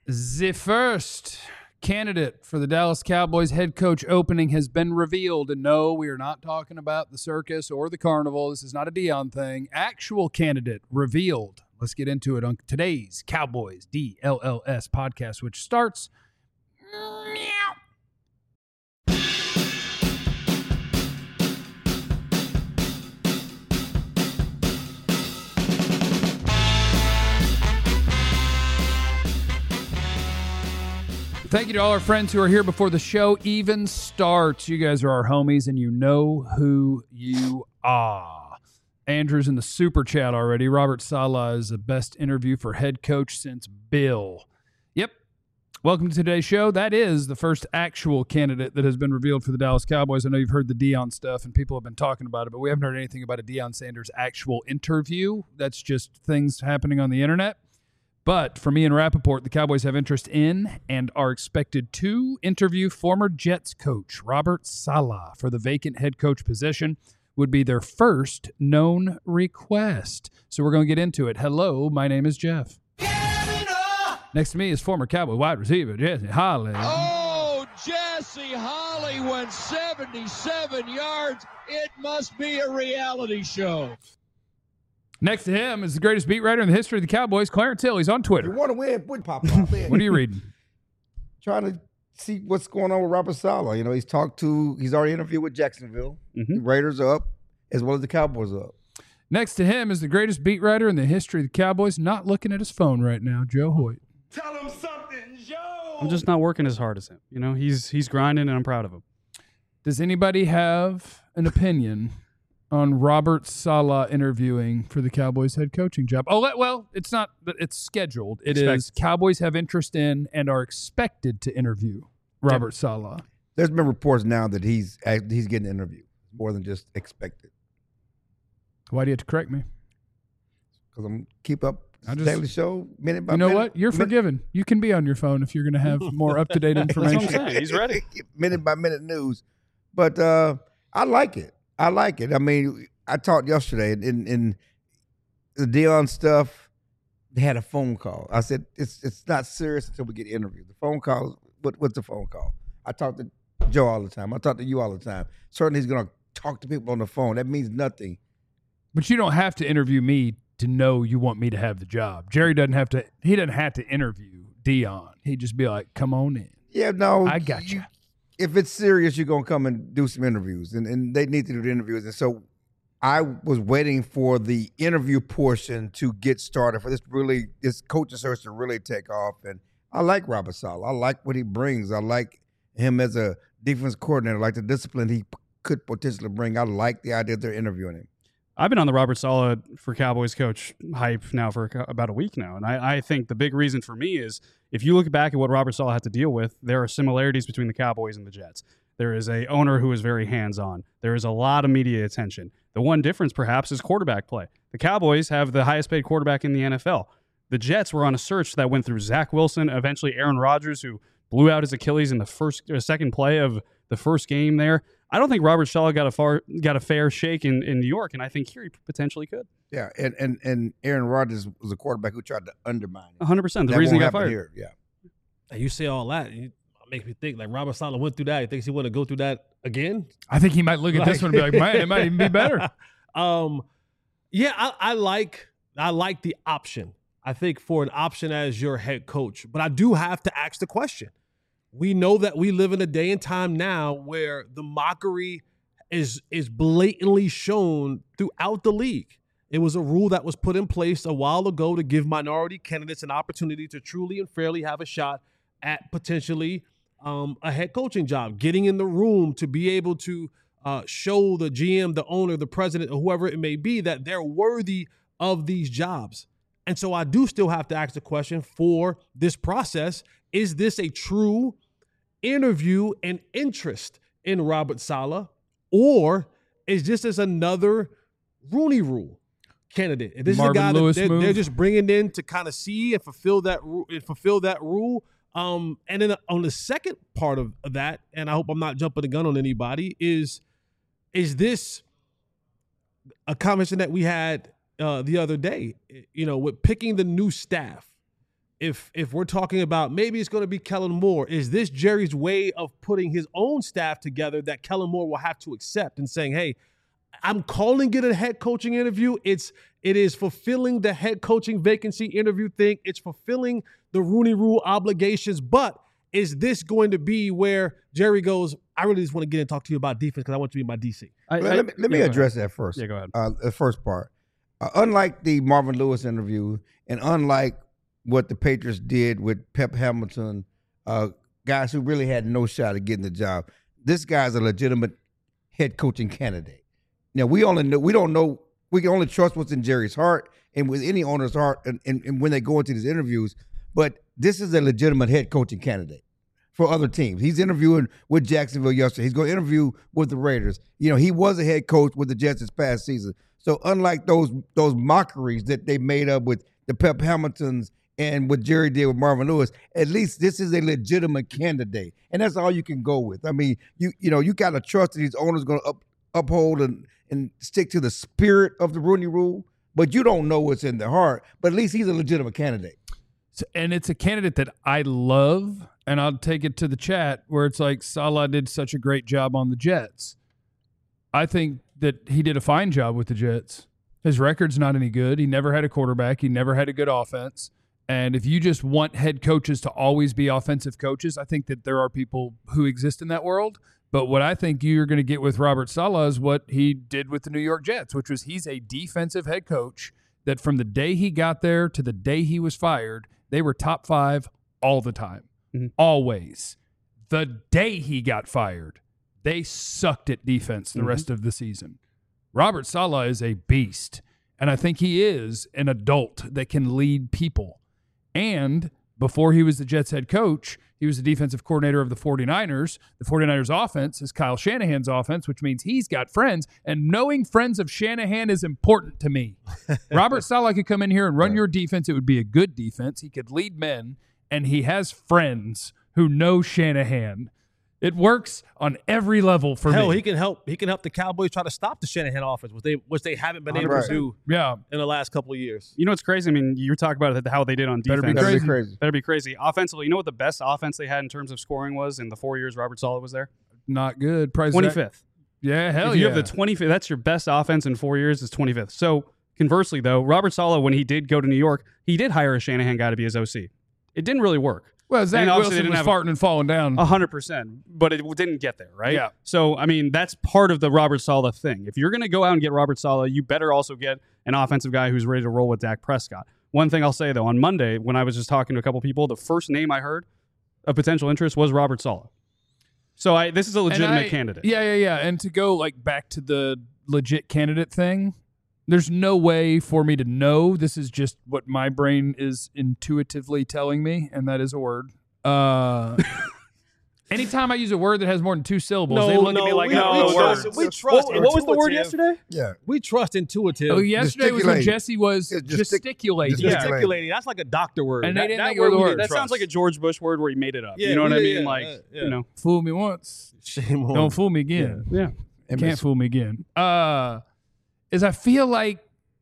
The first candidate for the Dallas Cowboys head coach opening has been revealed. And no, we are not talking about the circus or the carnival. This is not a Dion thing. Actual candidate revealed. Let's get into it on today's Cowboys DLLS podcast, which starts meow. Thank you to all our friends who are here before the show even starts. You guys are our homies, and you know who you are. Andrew's in the super chat already. Robert Saleh is the best interview for head coach since Bill. Yep. Welcome to today's show. That is the first actual candidate that has been revealed for the Dallas Cowboys. I know you've heard the Dion stuff, and people have been talking about it, but we haven't heard anything about a Deion Sanders actual interview. That's just things happening on the internet. But for me and Rappaport, the Cowboys have interest in and are expected to interview former Jets coach Robert Saleh for the vacant head coach position. Would be their first known request. So we're going to get into it. Hello, my name is Jeff. Next to me is former Cowboy wide receiver Jesse Holley. Oh, Jesse Holley went 77 yards. It must be a reality show. Next to him is the greatest beat writer in the history of the Cowboys, Clarence Hill. He's on Twitter. You want to win, put pop. What are you reading? Trying to see what's going on with Robert Saleh. You know, he's already interviewed with Jacksonville. The Raiders are up, as well as the Cowboys are up. Next to him is the greatest beat writer in the history of the Cowboys, not looking at his phone right now, Joe Hoyt. Tell him something, Joe. I'm just not working as hard as him. You know, he's grinding, and I'm proud of him. Does anybody have an opinion on Robert Saleh interviewing for the Cowboys head coaching job? Oh, well, it's not, but it's scheduled. It is Cowboys have interest in and are expected to interview Robert Saleh. There's been reports now that he's getting an interview, more than just expected. Why do you have to correct me? Because I'm keep up daily show minute by minute. You know what? You're forgiven. You can be on your phone if you're going to have more up-to-date information. That's what I'm saying. He's ready. Minute by minute news. But I like it. I mean, I talked yesterday in the Dion stuff. They had a phone call. I said it's not serious until we get interviewed. The phone call. What's the phone call? I talk to Joe all the time. I talk to you all the time. Certainly, he's gonna talk to people on the phone. That means nothing. But you don't have to interview me to know you want me to have the job. Jerry doesn't have to. He doesn't have to interview Dion. He'd just be like, "Come on in." Yeah, no, I got you. If it's serious, you're going to come and do some interviews, and they need to do the interviews. And so I was waiting for the interview portion to get started, for this coaching search to really take off. And I like Robert Saleh. I like what he brings. I like him as a defense coordinator. I like the discipline he could potentially bring. I like the idea they're interviewing him. I've been on the Robert Saleh for Cowboys coach hype now for about a week now. And I think the big reason for me is if you look back at what Robert Saleh had to deal with, there are similarities between the Cowboys and the Jets. There is a owner who is very hands-on. There is a lot of media attention. The one difference, perhaps, is quarterback play. The Cowboys have the highest-paid quarterback in the NFL. The Jets were on a search that went through Zach Wilson, eventually Aaron Rodgers, who blew out his Achilles in the second play of the first game there. I don't think Robert Saleh got a fair shake in New York, and I think here he potentially could. Yeah, and Aaron Rodgers was a quarterback who tried to undermine him. 100%. The reason he got fired. Here. Yeah. And you say all that, it makes me think, like, Robert Saleh went through that. He thinks he want to go through that again? I think he might look at this one and be like, man, it might even be better. Yeah, I like the option. I think for an option as your head coach. But I do have to ask the question. We know that we live in a day and time now where the mockery is blatantly shown throughout the league. It was a rule that was put in place a while ago to give minority candidates an opportunity to truly and fairly have a shot at potentially a head coaching job, getting in the room to be able to show the GM, the owner, the president, or whoever it may be, that they're worthy of these jobs. And so I do still have to ask the question for this process, is this a true interview and interest in Robert Saleh, or is this as another Rooney Rule candidate? If this Marvin is a guy Lewis that move. they're just bringing in to kind of see and fulfill that rule. And then on the second part of that, and I hope I'm not jumping the gun on anybody, is this a conversation that we had the other day, with picking the new staff? if we're talking about maybe it's going to be Kellen Moore, is this Jerry's way of putting his own staff together that Kellen Moore will have to accept and saying, hey, I'm calling it a head coaching interview. It is fulfilling the head coaching vacancy interview thing. It's fulfilling the Rooney Rule obligations. But is this going to be where Jerry goes, I really just want to get and talk to you about defense because I want you to be my DC? Let me address that first. Yeah, go ahead. The first part. Unlike the Marvin Lewis interview and unlike what the Patriots did with Pep Hamilton, guys who really had no shot at getting the job, this guy's a legitimate head coaching candidate. Now, we can only trust what's in Jerry's heart and with any owner's heart and when they go into these interviews, but this is a legitimate head coaching candidate for other teams. He's interviewing with Jacksonville yesterday. He's going to interview with the Raiders. You know, he was a head coach with the Jets this past season. So unlike those mockeries that they made up with the Pep Hamiltons and what Jerry did with Marvin Lewis, at least this is a legitimate candidate. And that's all you can go with. I mean, you got to trust that these owners are going to uphold and stick to the spirit of the Rooney Rule, but you don't know what's in their heart. But at least he's a legitimate candidate. And it's a candidate that I love, and I'll take it to the chat where it's like Saleh did such a great job on the Jets. I think that he did a fine job with the Jets. His record's not any good. He never had a quarterback. He never had a good offense. And if you just want head coaches to always be offensive coaches, I think that there are people who exist in that world. But what I think you're going to get with Robert Saleh is what he did with the New York Jets, which was he's a defensive head coach that from the day he got there to the day he was fired, they were top 5 all the time, always. The day he got fired, they sucked at defense the rest of the season. Robert Saleh is a beast, and I think he is an adult that can lead people. And before he was the Jets head coach, he was the defensive coordinator of the 49ers. The 49ers offense is Kyle Shanahan's offense, which means he's got friends. And knowing friends of Shanahan is important to me. Robert Saleh could come in here and run your defense. It would be a good defense. He could lead men, and he has friends who know Shanahan. It works on every level for me. Hell, he can help the Cowboys try to stop the Shanahan offense, which they haven't been able to do in the last couple of years. You know what's crazy? I mean, you were talking about how they did on defense. Better be crazy. Offensively, you know what the best offense they had in terms of scoring was in the 4 years Robert Saleh was there? Not good. Price 25th. Yeah, hell yeah. If you have the 25th, that's your best offense in 4 years is 25th. So conversely, though, Robert Saleh, when he did go to New York, he did hire a Shanahan guy to be his OC. It didn't really work. Well, Zach Wilson was farting and falling down. 100%, but it didn't get there, right? Yeah. So, I mean, that's part of the Robert Saleh thing. If you're going to go out and get Robert Saleh, you better also get an offensive guy who's ready to roll with Dak Prescott. One thing I'll say, though, on Monday, when I was just talking to a couple people, the first name I heard of potential interest was Robert Saleh. So this is a legitimate candidate. Yeah. And to go back to the legit candidate thing, there's no way for me to know. This is just what my brain is intuitively telling me, and that is a word. Anytime I use a word that has more than 2 syllables, they look at me like, we trust. What was the word yesterday? Yeah. We trust intuitive. Oh, yesterday was when Jesse was gesticulating. Gesticulating. That's like a doctor word. And they didn't think it was a word. That sounds like a George Bush word where he made it up. You know what I mean? You know, fool me once, don't fool me again. Yeah. Can't fool me again. Is I feel like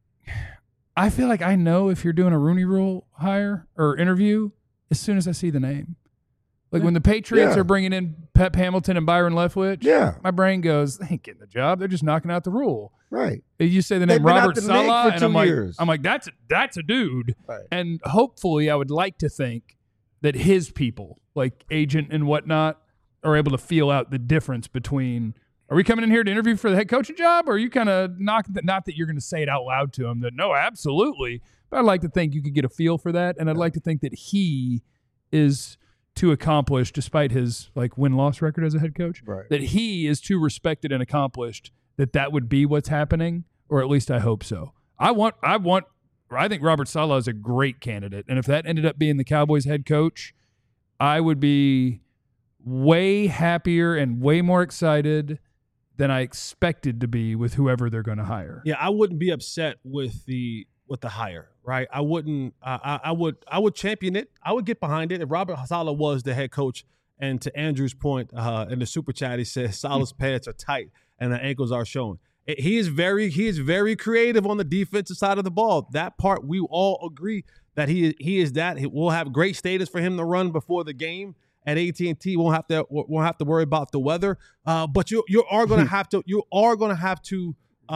I know if you're doing a Rooney Rule hire or interview as soon as I see the name. Like when the Patriots are bringing in Pep Hamilton and Byron Leftwich, my brain goes, they ain't getting the job. They're just knocking out the rule. Right. You say the name Robert Saleh, and I'm like, that's a dude. Right. And hopefully I would like to think that his people, like agent and whatnot, are able to feel out the difference between, are we coming in here to interview for the head coaching job, or are you kind of knocking that? Not that you're going to say it out loud to him that no, absolutely. But I'd like to think you could get a feel for that, and I'd like to think that he is too accomplished, despite his win-loss record as a head coach, that he is too respected and accomplished that would be what's happening, or at least I hope so. I think Robert Saleh is a great candidate, and if that ended up being the Cowboys head coach, I would be way happier and way more excited than I expected to be with whoever they're going to hire. Yeah, I wouldn't be upset with the hire, right? I wouldn't. I would champion it. I would get behind it if Robert Saleh was the head coach. And to Andrew's point in the super chat, he says Saleh's pants are tight and the ankles are showing. He is very creative on the defensive side of the ball. That part we all agree that he is that. We'll have great status for him to run before the game at AT&T. Won't have to worry about the weather. But you are going to have to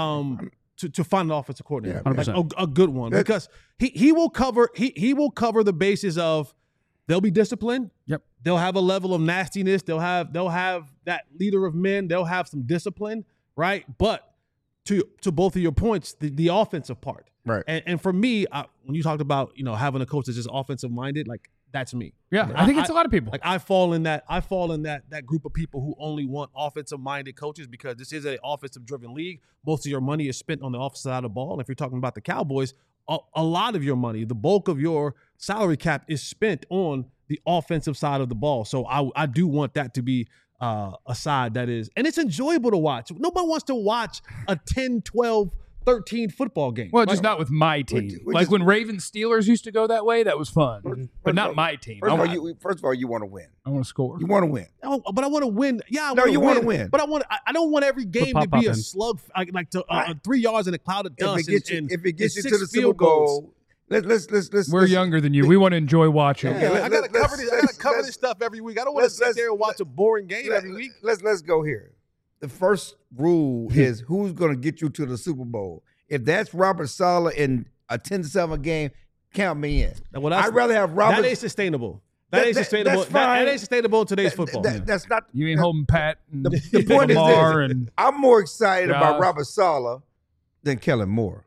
find an offensive coordinator, Yeah, like a good one, because he will cover the bases of. They'll be disciplined. Yep. They'll have a level of nastiness. They'll have that leader of men. They'll have some discipline, right? But to both of your points, the offensive part, Right. And for me, when you talked about having a coach that's just offensive minded, like that's me. Yeah, I think it's a lot of people. Like I fall in that group of people who only want offensive minded coaches because this is an offensive driven league. Most of your money is spent on the offensive side of the ball. And if you're talking about the Cowboys, a lot of your money, the bulk of your salary cap is spent on the offensive side of the ball. So I do want that to be a side that is, and it's enjoyable to watch. Nobody wants to watch a 10, 12, 13 football game. Well, just not with my team. Like when Ravens Steelers used to go that way, that was fun. But not my team. First of all, you want to win. I want to score. You want to win. Oh, but I want to win. Yeah, you want to win. But I don't want every game to be a slug, like 3 yards in a cloud of dust. If it gets you to the Super Bowl, let's. We're younger than you. We want to enjoy watching. Yeah, I gotta cover this stuff every week. I don't want to sit there and watch a boring game every week. Let's go here. The first rule is who's going to get you to the Super Bowl. If that's Robert Saleh in a 10-7 game, count me in. I'd rather have Robert. That ain't sustainable. That ain't sustainable. That's fine. That ain't sustainable in today's football. That's not. You ain't holding Pat. And The point Lamar is this: and I'm more excited Josh. about Robert Saleh than Kellen Moore.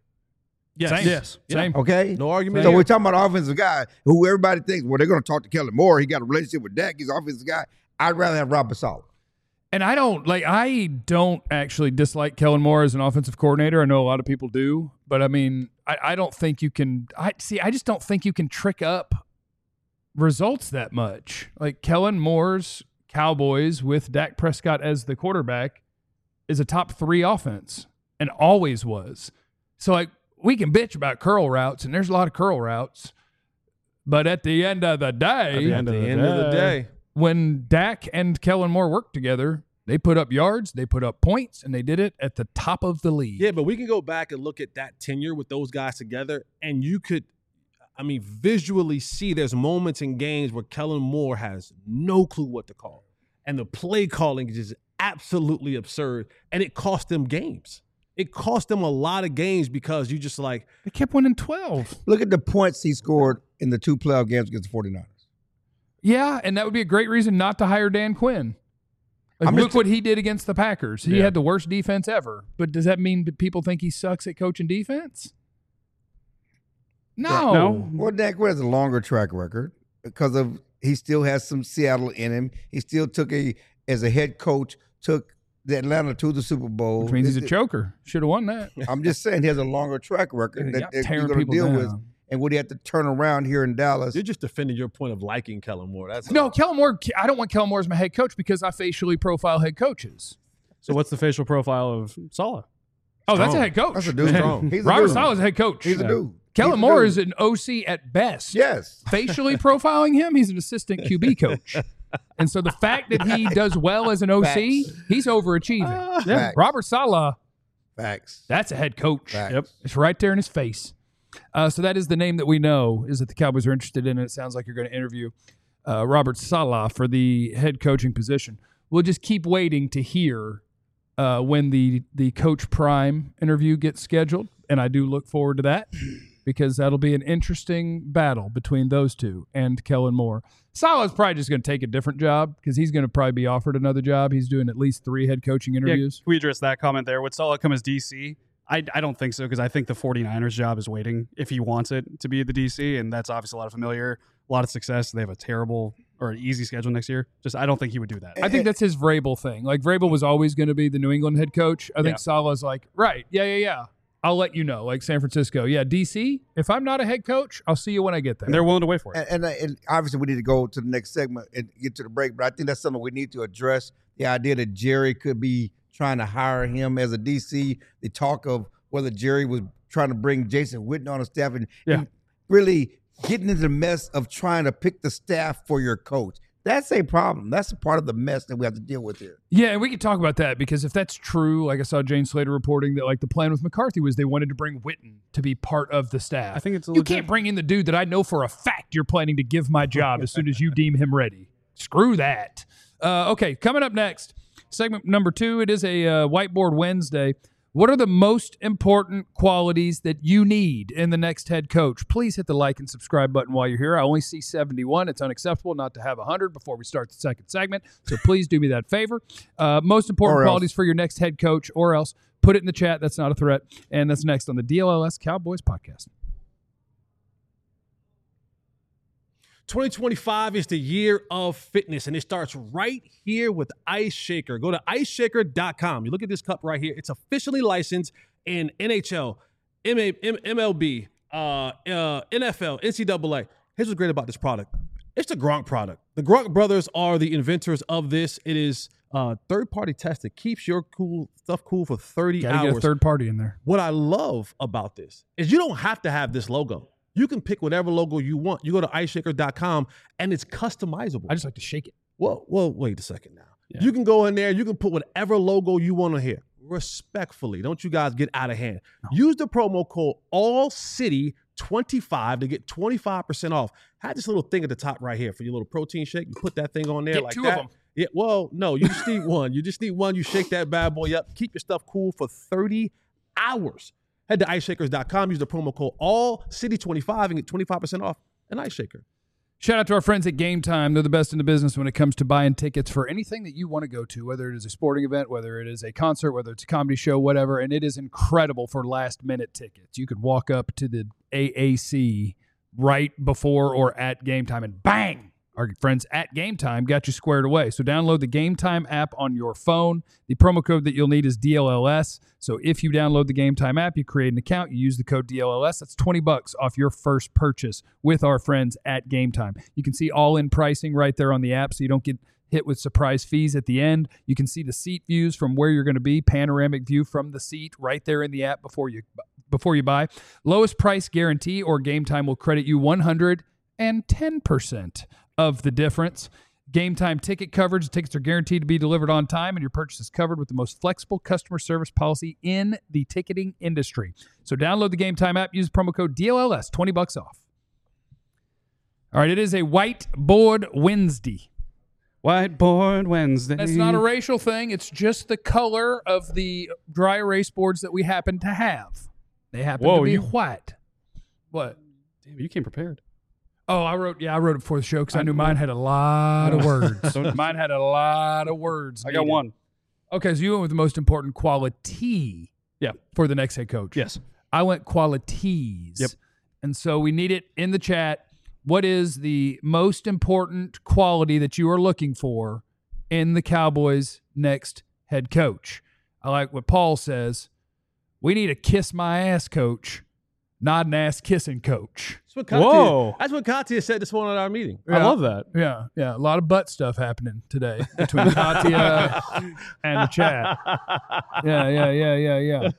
Yes. Same. Okay, No argument. So here. we're talking about an offensive guy who everybody thinks, well, they're going to talk to Kellen Moore. He got a relationship with Dak. He's an offensive guy. I'd rather have Robert Saleh. And I don't actually dislike Kellen Moore as an offensive coordinator. I know a lot of people do, but I mean, I don't think you can. I just don't think you can trick up results that much. Like Kellen Moore's Cowboys with Dak Prescott as the quarterback is a top 3 offense and always was. So like we can bitch about curl routes, and there's a lot of curl routes, but at the end of the day, when Dak and Kellen Moore worked together, they put up yards, they put up points, and they did it at the top of the league. Yeah, but we can go back and look at that tenure with those guys together, and you could, visually see there's moments in games where Kellen Moore has no clue what to call. And the play calling is just absolutely absurd, and it cost them games. It cost them a lot of games because you just like. They kept winning 12. Look at the points he scored in the 2 playoff games against the 49ers. Yeah, and that would be a great reason not to hire Dan Quinn. Like, look what he did against the Packers. He had the worst defense ever. But does that mean that people think he sucks at coaching defense? No. Well, Dan Quinn has a longer track record because of he still has some Seattle in him. He still as a head coach, took the Atlanta to the Super Bowl. Which means he's a choker. Should have won that. I'm just saying he has a longer track record that you're tearing going to people deal down. with. And would he have to turn around here in Dallas? You're just defending your point of liking Kellen Moore. No, Kellen Moore, I don't want Kellen Moore as my head coach because I facially profile head coaches. So what's the facial profile of Saleh? Oh, that's a head coach. That's a dude. He's a Robert dude. Saleh's a head coach. He's a dude. Kellen Moore is an OC at best. Yes. Facially profiling him, he's an assistant QB coach. And so the fact that he does well as an OC, he's overachieving. Facts. Robert Saleh, Facts. that's a head coach. Facts. Yep. It's right there in his face. So that is the name that we know is that the Cowboys are interested in. And it sounds like you're going to interview Robert Saleh for the head coaching position. We'll just keep waiting to hear when the Coach Prime interview gets scheduled. And I do look forward to that because that'll be an interesting battle between those two and Kellen Moore. Saleh's probably just going to take a different job because he's going to probably be offered another job. He's doing at least 3 head coaching interviews. Yeah, we addressed that comment there. Would Saleh come as DC? I don't think so because I think the 49ers job is waiting if he wants it to be the DC, and that's obviously a lot of familiar, a lot of success. They have a terrible or an easy schedule next year. Just I don't think he would do that. I think that's his Vrabel thing. Like Vrabel was always going to be the New England head coach. I think Saleh's like, right, yeah. I'll let you know, like San Francisco. Yeah, DC, if I'm not a head coach, I'll see you when I get there. And they're willing to wait for it. And obviously we need to go to the next segment and get to the break, but I think that's something we need to address, the idea that Jerry could be trying to hire him as a DC, the talk of whether Jerry was trying to bring Jason Witten on the staff and really getting into the mess of trying to pick the staff for your coach. That's a problem. That's a part of the mess that we have to deal with here. Yeah, and we could talk about that because if that's true, like I saw Jane Slater reporting that like the plan with McCarthy was they wanted to bring Witten to be part of the staff. I think it's you legit. can't bring in the dude that I know for a fact you're planning to give my job as soon as you deem him ready. Screw that. Okay, coming up next, segment number 2. It is a Whiteboard Wednesday. What are the most important qualities that you need in the next head coach? Please hit the like and subscribe button while you're here. I only see 71. It's unacceptable not to have 100 before we start the second segment. So please do me that favor. Most important qualities for your next head coach, or else put it in the chat. That's not a threat. And that's next on the DLLS Cowboys podcast. 2025 is the year of fitness, and it starts right here with Ice Shaker. Go to iceshaker.com. You look at this cup right here. It's officially licensed in NHL, MLB, NFL, NCAA. Here's what's great about this product. It's the Gronk product. The Gronk brothers are the inventors of this. It is third-party tested. Keeps your stuff cool for 30 hours. Gotta get a third party in there. What I love about this is you don't have to have this logo. You can pick whatever logo you want. You go to iceshaker.com, and it's customizable. I just like to shake it. Well, wait a second now. Yeah. You can go in there. You can put whatever logo you want on here. Respectfully, don't you guys get out of hand. No. Use the promo code ALLCITY25 to get 25% off. Had this little thing at the top right here for your little protein shake. You put that thing on there get like 2 that. of them. Yeah, well, no, you just need one. You just need one. You shake that bad boy up. Keep your stuff cool for 30 hours. Head to iceshakers.com, use the promo code ALLCITY25 and get 25% off an Ice Shaker. Shout out to our friends at Game Time. They're the best in the business when it comes to buying tickets for anything that you want to go to, whether it is a sporting event, whether it is a concert, whether it's a comedy show, whatever. And it is incredible for last-minute tickets. You could walk up to the AAC right before or at Game Time and bang! Our friends at Game Time got you squared away. So download the Game Time app on your phone. The promo code that you'll need is DLLS. So if you download the Game Time app, you create an account, you use the code DLLS. That's $20 off your first purchase with our friends at Game Time. You can see all-in pricing right there on the app so you don't get hit with surprise fees at the end. You can see the seat views from where you're going to be, panoramic view from the seat right there in the app before you buy. Lowest price guarantee, or Game Time will credit you 110% of the difference. Game Time ticket coverage. The tickets are guaranteed to be delivered on time, and your purchase is covered with the most flexible customer service policy in the ticketing industry. So download the Game Time app. Use promo code DLLS, $20 off. All right, it is a Whiteboard Wednesday. Whiteboard Wednesday. That's not a racial thing. It's just the color of the dry erase boards that we happen to have. They happen to be white. What? Damn, you came prepared. Oh, I wrote it before the show because I knew mine had a lot of words. Mine had a lot of words. I got one. Okay, so you went with the most important quality for the next head coach. Yes. I went qualities. Yep. And so we need it in the chat. What is the most important quality that you are looking for in the Cowboys' next head coach? I like what Paul says. We need a kiss my ass coach, not an ass kissing coach. That's what Katia said this morning at our meeting. Yeah. I love that. Yeah. A lot of butt stuff happening today between Katia and the chat. Yeah.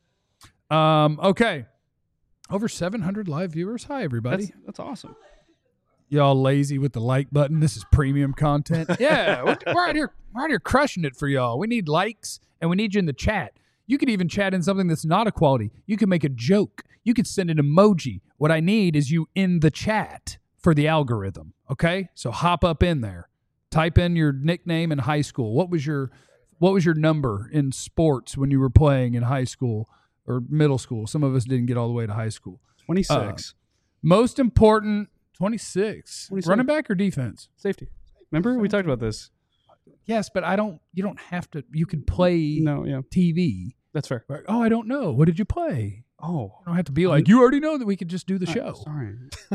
Okay. Over 700 live viewers. Hi, everybody. That's awesome. Y'all lazy with the like button. This is premium content. Yeah, we're out here crushing it for y'all. We need likes, and we need you in the chat. You could even chat in something that's not a quality. You can make a joke. You could send an emoji. What I need is you in the chat for the algorithm, okay? So hop up in there. Type in your nickname in high school. What was your number in sports when you were playing in high school or middle school? Some of us didn't get all the way to high school. 26. Most important, 26. 26. Running back or defense? Safety. Remember? We talked about this. Yes, but you don't have to. You could play TV. That's fair. Right? Oh, I don't know. What did you play? Oh. I don't have to be like, you already know that we could just do the show. Sorry.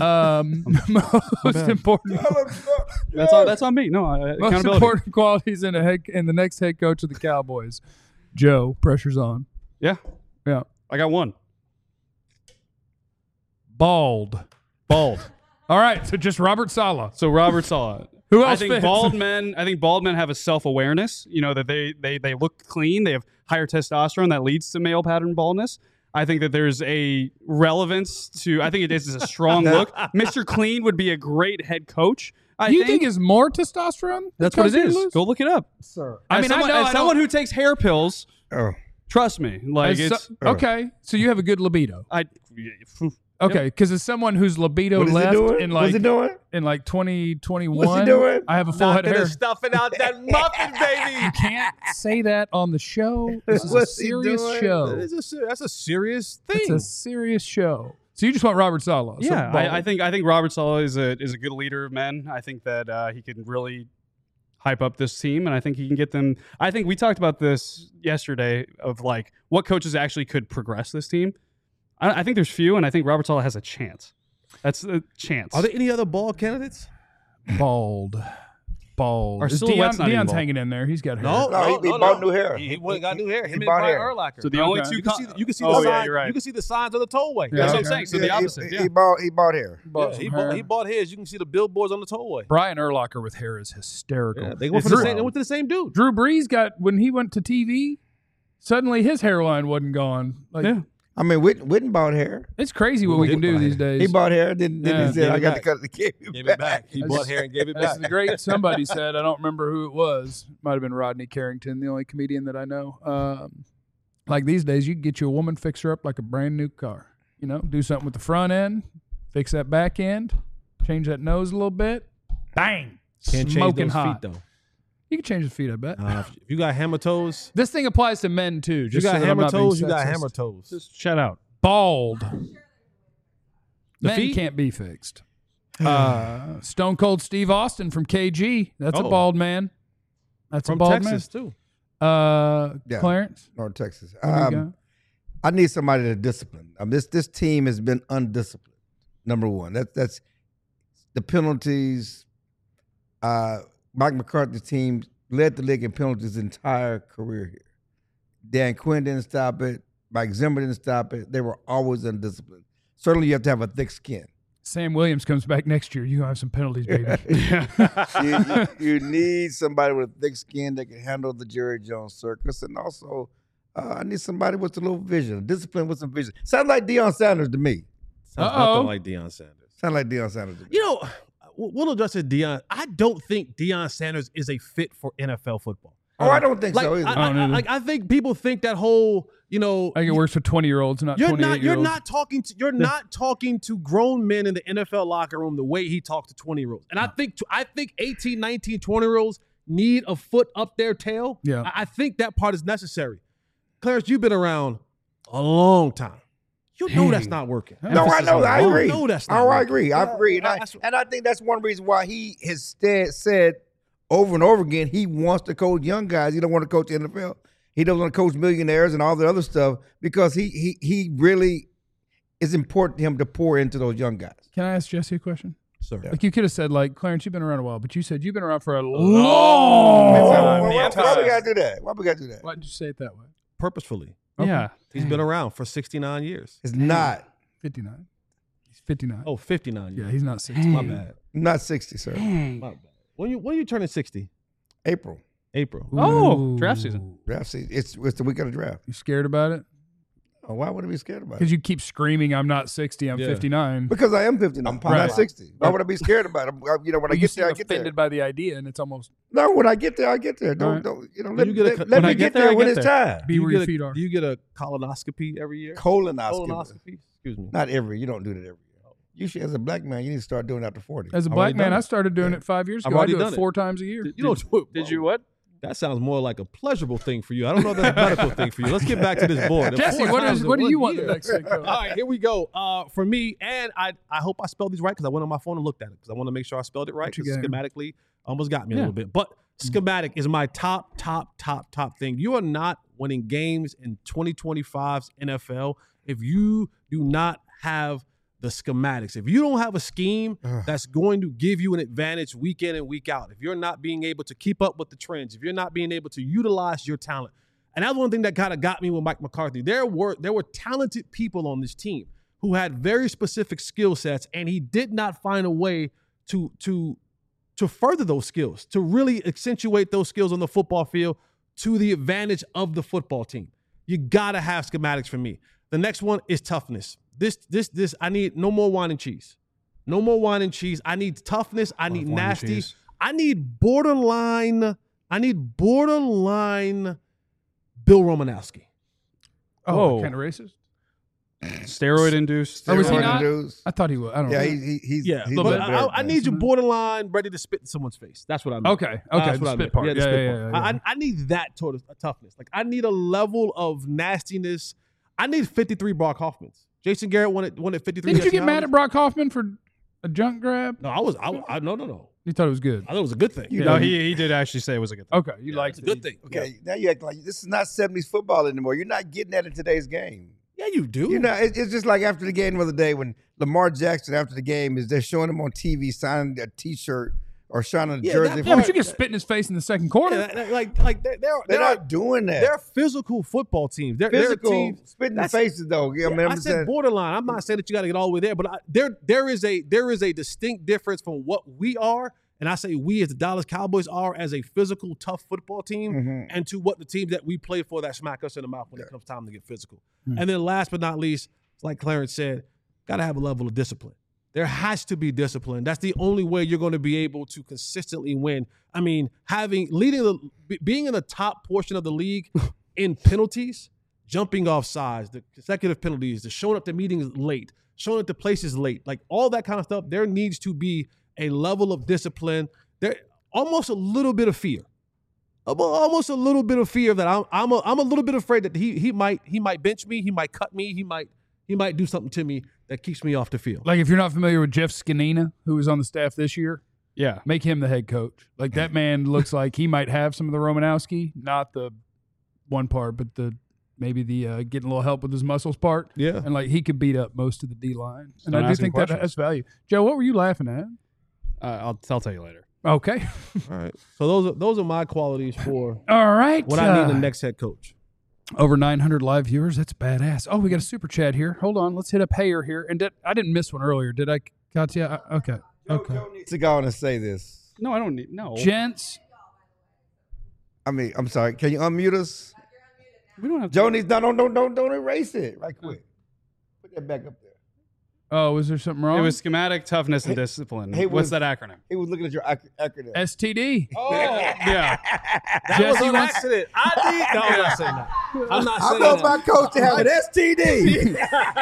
Most important. That's on me. No, most important qualities in the next head coach of the Cowboys. Joe, pressure's on. Yeah. I got one. Bald. All right, so just Robert Saleh. So Robert Saleh. Who else? I think bald men have a self-awareness. You know that they look clean. They have higher testosterone that leads to male pattern baldness. I think that there's a relevance to. I think it is a strong look. Mr. Clean would be a great head coach. You think is more testosterone? That's what it is. Go look it up, sir. As someone who takes hair pills, trust me. Like okay, so you have a good libido. Okay, because as someone whose libido left in like 2021, What's he doing? I have a full head of hair. Stuffing out that muffin, baby. You can't say that on the show. This is a serious show. That's a serious thing. It's a serious show. So you just want Robert Saleh? Yeah, I think Robert Saleh is a good leader of men. I think that he can really hype up this team, and I think he can get them. I think we talked about this yesterday of like what coaches actually could progress this team. I think there's few, and I think Robert Saleh has a chance. That's a chance. Are there any other bald candidates? Bald. Our silhouette's not even Deion's bald. hanging in there. He's got hair. No, he bought new hair. He got new hair. Him and bought Brian hair. Urlacher. So the only Okay. two. You can see Oh, the yeah, signs. you're right. You can see the signs of the tollway. Yeah, That's what okay. I'm saying. So the opposite. He bought hair. Yeah, he bought his. You can see the billboards on the tollway. Brian Urlacher with hair is hysterical. Yeah, they went to the same dude. Drew Brees got when he went to TV. Suddenly his hairline wasn't gone. Like, Yeah. I mean, Witten bought hair. it's crazy what we can do these days. He bought hair. Then Yeah. he said, "I Gave it got to back. cut the Gave it back. He bought hair and gave it That's back. the great somebody said. I don't remember who it was. Might have been Rodney Carrington, the only comedian that I know. Like these days, you can get you a woman, fix her up like a brand new car. You know, do something with the front end, fix that back end, change that nose a little bit. Bang! Can't change Smoking those hot. feet though. You can change the feet, I bet. If you got hammer toes, This thing applies to men too. you Just got so that I'm hammer not being toes. You got sexist. hammer toes. Just shout out. Bald. The Men feet? can't be fixed. Stone Cold Steve Austin from KG. That's a Oh. bald man. That's From a bald Texas too. man. Yeah. Clarence. North Texas. There you go. I need somebody to discipline. This team has been undisciplined. Number one, that's the penalties. Mike McCarthy's team led the league in penalties his entire career here. Dan Quinn didn't stop it. Mike Zimmer didn't stop it. They were always undisciplined. Certainly, you have to have a thick skin. Sam Williams comes back next year. You're going to have some penalties, baby. you need somebody with a thick skin that can handle the Jerry Jones circus, and also I need somebody with a little vision, discipline with some vision. Sounds like Deion Sanders to me. Sounds Uh-oh. nothing like Deion Sanders. Sounds like Deion Sanders to me. You know, we'll address it, Deion. I don't think Deion Sanders is a fit for NFL football. Oh, I don't think Like, so either. I think people think that whole, you know, I think it works for 20-year-olds, not 28-year-olds. you're not talking to grown men in the NFL locker room the way he talks to 20-year-olds. And I think 18, 19, 20-year-olds need a foot up their tail. Yeah. I think that part is necessary. Clarence, you've been around a long time. You know that's not working. No, I know. I agree. You know that's not I working. agree. I agree. And I think that's one reason why he has said over and over again he wants to coach young guys. He don't want to coach the NFL. He doesn't want to coach millionaires and all the other stuff because he really is important to him to pour into those young guys. Can I ask Jesse a question? Sir. Like you could have said, like, Clarence, you've been around a while, but you said you've been around for a long Why time. we gotta do that? Why we gotta do that? Why did you say it that way? Purposefully. Yeah. He's been around for 69 years. It's not. 59. He's 59. Oh, 59 years. Yeah, he's not 60. My bad. Not 60, sir. My bad. When you turning 60? April. April. Oh, draft season. Draft season. It's the week of the draft. You scared about it? Oh, why would I be scared about it? Because you keep screaming, I'm not 60, I'm Yeah. 59. Because I am 59. I'm Right. not 60. Why would I be scared about it? You know, when I You get seem there, I get there. offended by the idea, and it's almost No, when I get there, I get there. All right. Don't you know? When Let you me get a- let when me I get get there, there I when get it's there. time. be where your feet are. Do you get a colonoscopy every year? Colonoscopy. Colonoscopy. Excuse me. Not every. You don't do that every year. You should, as a black man, you need to start doing it after 40. As a I've black already man, done I it. started doing it 5 years I've ago. I already do done it it. 4 times a year. You don't do it. Did you what? That sounds more like a pleasurable thing for you. I don't know if that's a medical thing for you. Let's get back to this board. Jesse, Four what times in do you 1 want the year. next thing? All right, here we go. For me, and I hope I spelled these right because I went on my phone and looked at it because I want to make sure I spelled it right What you because got? schematically almost got me a Yeah. little bit. But schematic is my top thing. You are not winning games in 2025's NFL if you do not have the schematics. If you don't have a scheme that's going to give you an advantage week in and week out, if you're not being able to keep up with the trends, if you're not being able to utilize your talent, and that's one thing that kind of got me with Mike McCarthy. There were talented people on this team who had very specific skill sets, and he did not find a way to further those skills, to really accentuate those skills on the football field to the advantage of the football team. You gotta have schematics for me. The next one is toughness. This. I need no more wine and cheese. No more wine and cheese. I need toughness. I need nasty. I need borderline Bill Romanowski. Oh, kind of racist. Steroid induced. Oh, was he Steroid not? induced. I thought he was. I don't know. He's Yeah, he's but very I need you borderline ready to spit in someone's face. That's what I mean. Okay. That's The what I spit meant. part. Yeah, the Yeah, spit yeah, part. yeah. I need that sort of toughness. Like I need a level of nastiness. I need 53 Brock Hoffmans. Jason Garrett won at 53. Didn't you get mad at Brock Hoffman for a junk grab? No, no. You thought it was good. I thought it was a good thing. No, he did actually say it was a good thing. Okay, you liked It's a it. good thing. Okay, now you act like this is not 70s football anymore. You're not getting that in today's game. Yeah, you do. You know, it's just like after the game the other day when Lamar Jackson, after the game, they're showing him on TV signing a T-shirt or signing a jersey. Yeah, but you get spit in his face in the second quarter. They're not doing that. They're physical football teams. They're physical, a team. spitting in faces though. Yeah, Yeah, I said borderline. I'm not saying that you got to get all the way there, but there is a distinct difference from what we are, and I say we as the Dallas Cowboys are as a physical, tough football team, and to what the teams that we play for that smack us in the mouth when it comes time to get physical. And then last but not least, like Clarence said, got to have a level of discipline. There has to be discipline. That's the only way you're going to be able to consistently win. I mean, being in the top portion of the league in penalties, jumping off sides, the consecutive penalties, the showing up to meetings late, showing up to places late, like all that kind of stuff. There needs to be a level of discipline. There almost a little bit of fear. Almost a little bit of fear that I'm a little bit afraid that he might bench me, he might cut me, he might do something to me that keeps me off the field. Like if you're not familiar with Jeff Scanina, who was on the staff this year, Yeah. make him the head coach. Like that man looks like he might have some of the Romanowski, not the one part, but maybe the getting a little help with his muscles part. Yeah. And like he could beat up most of the D line. And Don't I do ask him think that questions. has value. Joe, what were you laughing at? I'll tell you later. Okay. All right. So those are my qualities for All right. what I need in the next head coach. Over 900 live viewers. That's badass. Oh, we got a super chat here. Hold on. Let's hit up Hayer here. And I didn't miss one earlier. Did I, Katya? Okay. Okay. Joe needs to go on and say this. No, I don't need. No. Gents, I mean, I'm sorry. Can you unmute us? We don't have. Joe needs don't erase it right quick. Put that back up there. oh, was there something wrong? It was schematic, toughness, and discipline. hey, What's was- that acronym? He was looking at your acronym. STD. Oh, Yeah. that was Jesse an wants- accident. I'm not saying that. I'm not I saying want that. my coach to have an STD.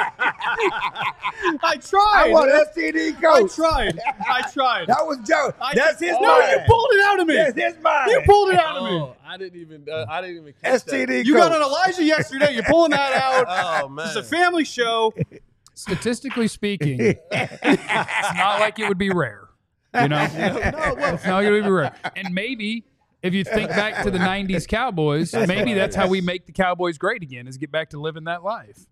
I tried. I want an STD coach. I tried. That was Joe. That's his No, mind. you pulled it out of me. That's his mind. You pulled it out of me. Oh, I didn't even catch that. STD You coach. got on Elijah yesterday. You're pulling that out. Oh man. It's a family show. Statistically speaking, it's not like it would be rare. You know? It's not like it would be rare. And maybe if you think back to the 90s Cowboys, maybe that's how we make the Cowboys great again, is get back to living that life.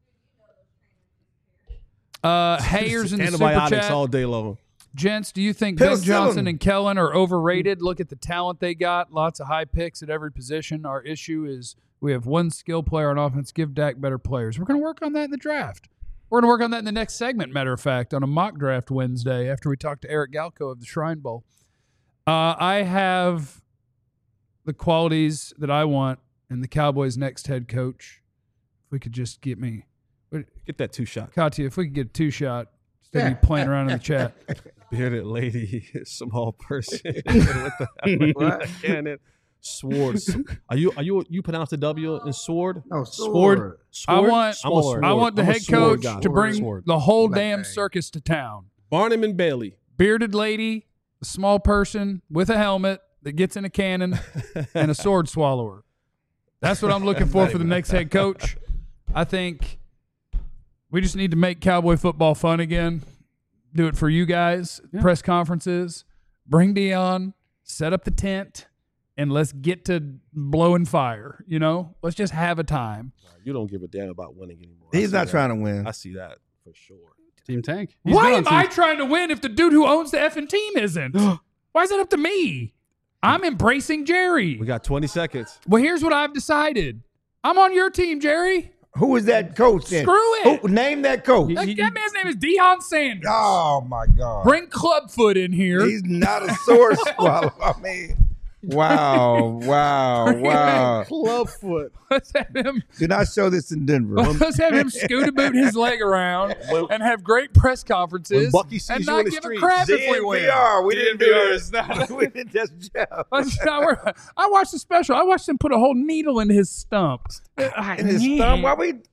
Hayers in the super Antibiotics chat. all day long. Gents, do you think Ben Penicillin. Johnson and Kellen are overrated? Look at the talent they got. Lots of high picks at every position. Our issue is we have one skill player on offense. Give Dak better players. We're going to work on that in the draft. We're going to work on that in the next segment, matter of fact, on a mock draft Wednesday after we talk to Eric Galco of the Shrine Bowl. I have the qualities that I want in the Cowboys' next head coach. If we could just get me, Get that 2-shot. Katya, if we could get a 2-shot instead of me playing around in the chat. Bearded lady, small person with the cannon. Sword. Are you pronounce the W in sword? No, Sword. I want Sword. I want the I'm a head sword coach guy. to bring Sword. the whole Black damn bag. circus to town. Barnum and Bailey. Bearded lady, a small person with a helmet that gets in a cannon, and a sword swallower. That's what I'm looking for the next head coach. I think we just need to make Cowboy football fun again. Do it for you guys. Yeah. Press conferences. Bring Dion. Set up the tent. And let's get to blowing fire. You know, let's just have a time. You don't give a damn about winning anymore. He's not trying to win. I see that for sure. Team Tank. He's Why been am on I Team- trying to win if the dude who owns the effing team isn't? Why is it up to me? I'm embracing Jerry. We got 20 seconds. Well, here's what I've decided. I'm on your team, Jerry. Who is that coach then? Screw it. Who, name that coach. That man's name is Deion Sanders. Oh my God. Bring Clubfoot in here. He's not a sword swallower. I mean, Wow. Clubfoot. Let's have him. Do not show this in Denver. Let's have him scooter boot his leg around and have great press conferences When Bucky sees and you in not the give a street. crap if we win. DNVR. We didn't do this. We didn't just Jeff. I watched the special. I watched him put a whole needle in his stump. In his thumb. Why we?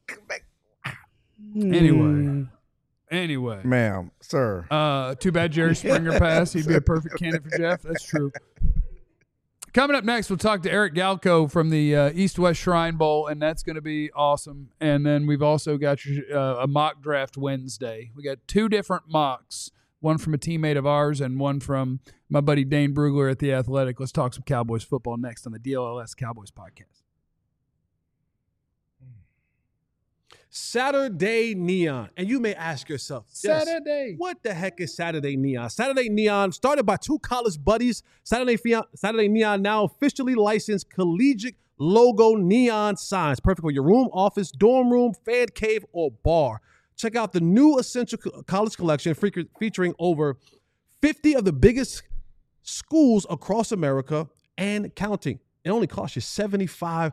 Anyway. Ma'am, sir. Too bad Jerry Springer passed. He'd be a perfect candidate for Jeff. That's true. Coming up next, we'll talk to Eric Galko from the East-West Shrine Bowl, and that's going to be awesome. And then we've also got a mock draft Wednesday. We got 2 different mocks, one from a teammate of ours and one from my buddy Dane Brugler at The Athletic. Let's talk some Cowboys football next on the DLLS Cowboys podcast. Saturday Neon. And you may ask yourself, Saturday. What the heck is Saturday Neon? Saturday Neon, started by 2 college buddies. Saturday Neon now officially licensed collegiate logo neon signs. Perfect for your room, office, dorm room, fan cave, or bar. Check out the new Essential College Collection featuring over 50 of the biggest schools across America and counting. It only costs you $75.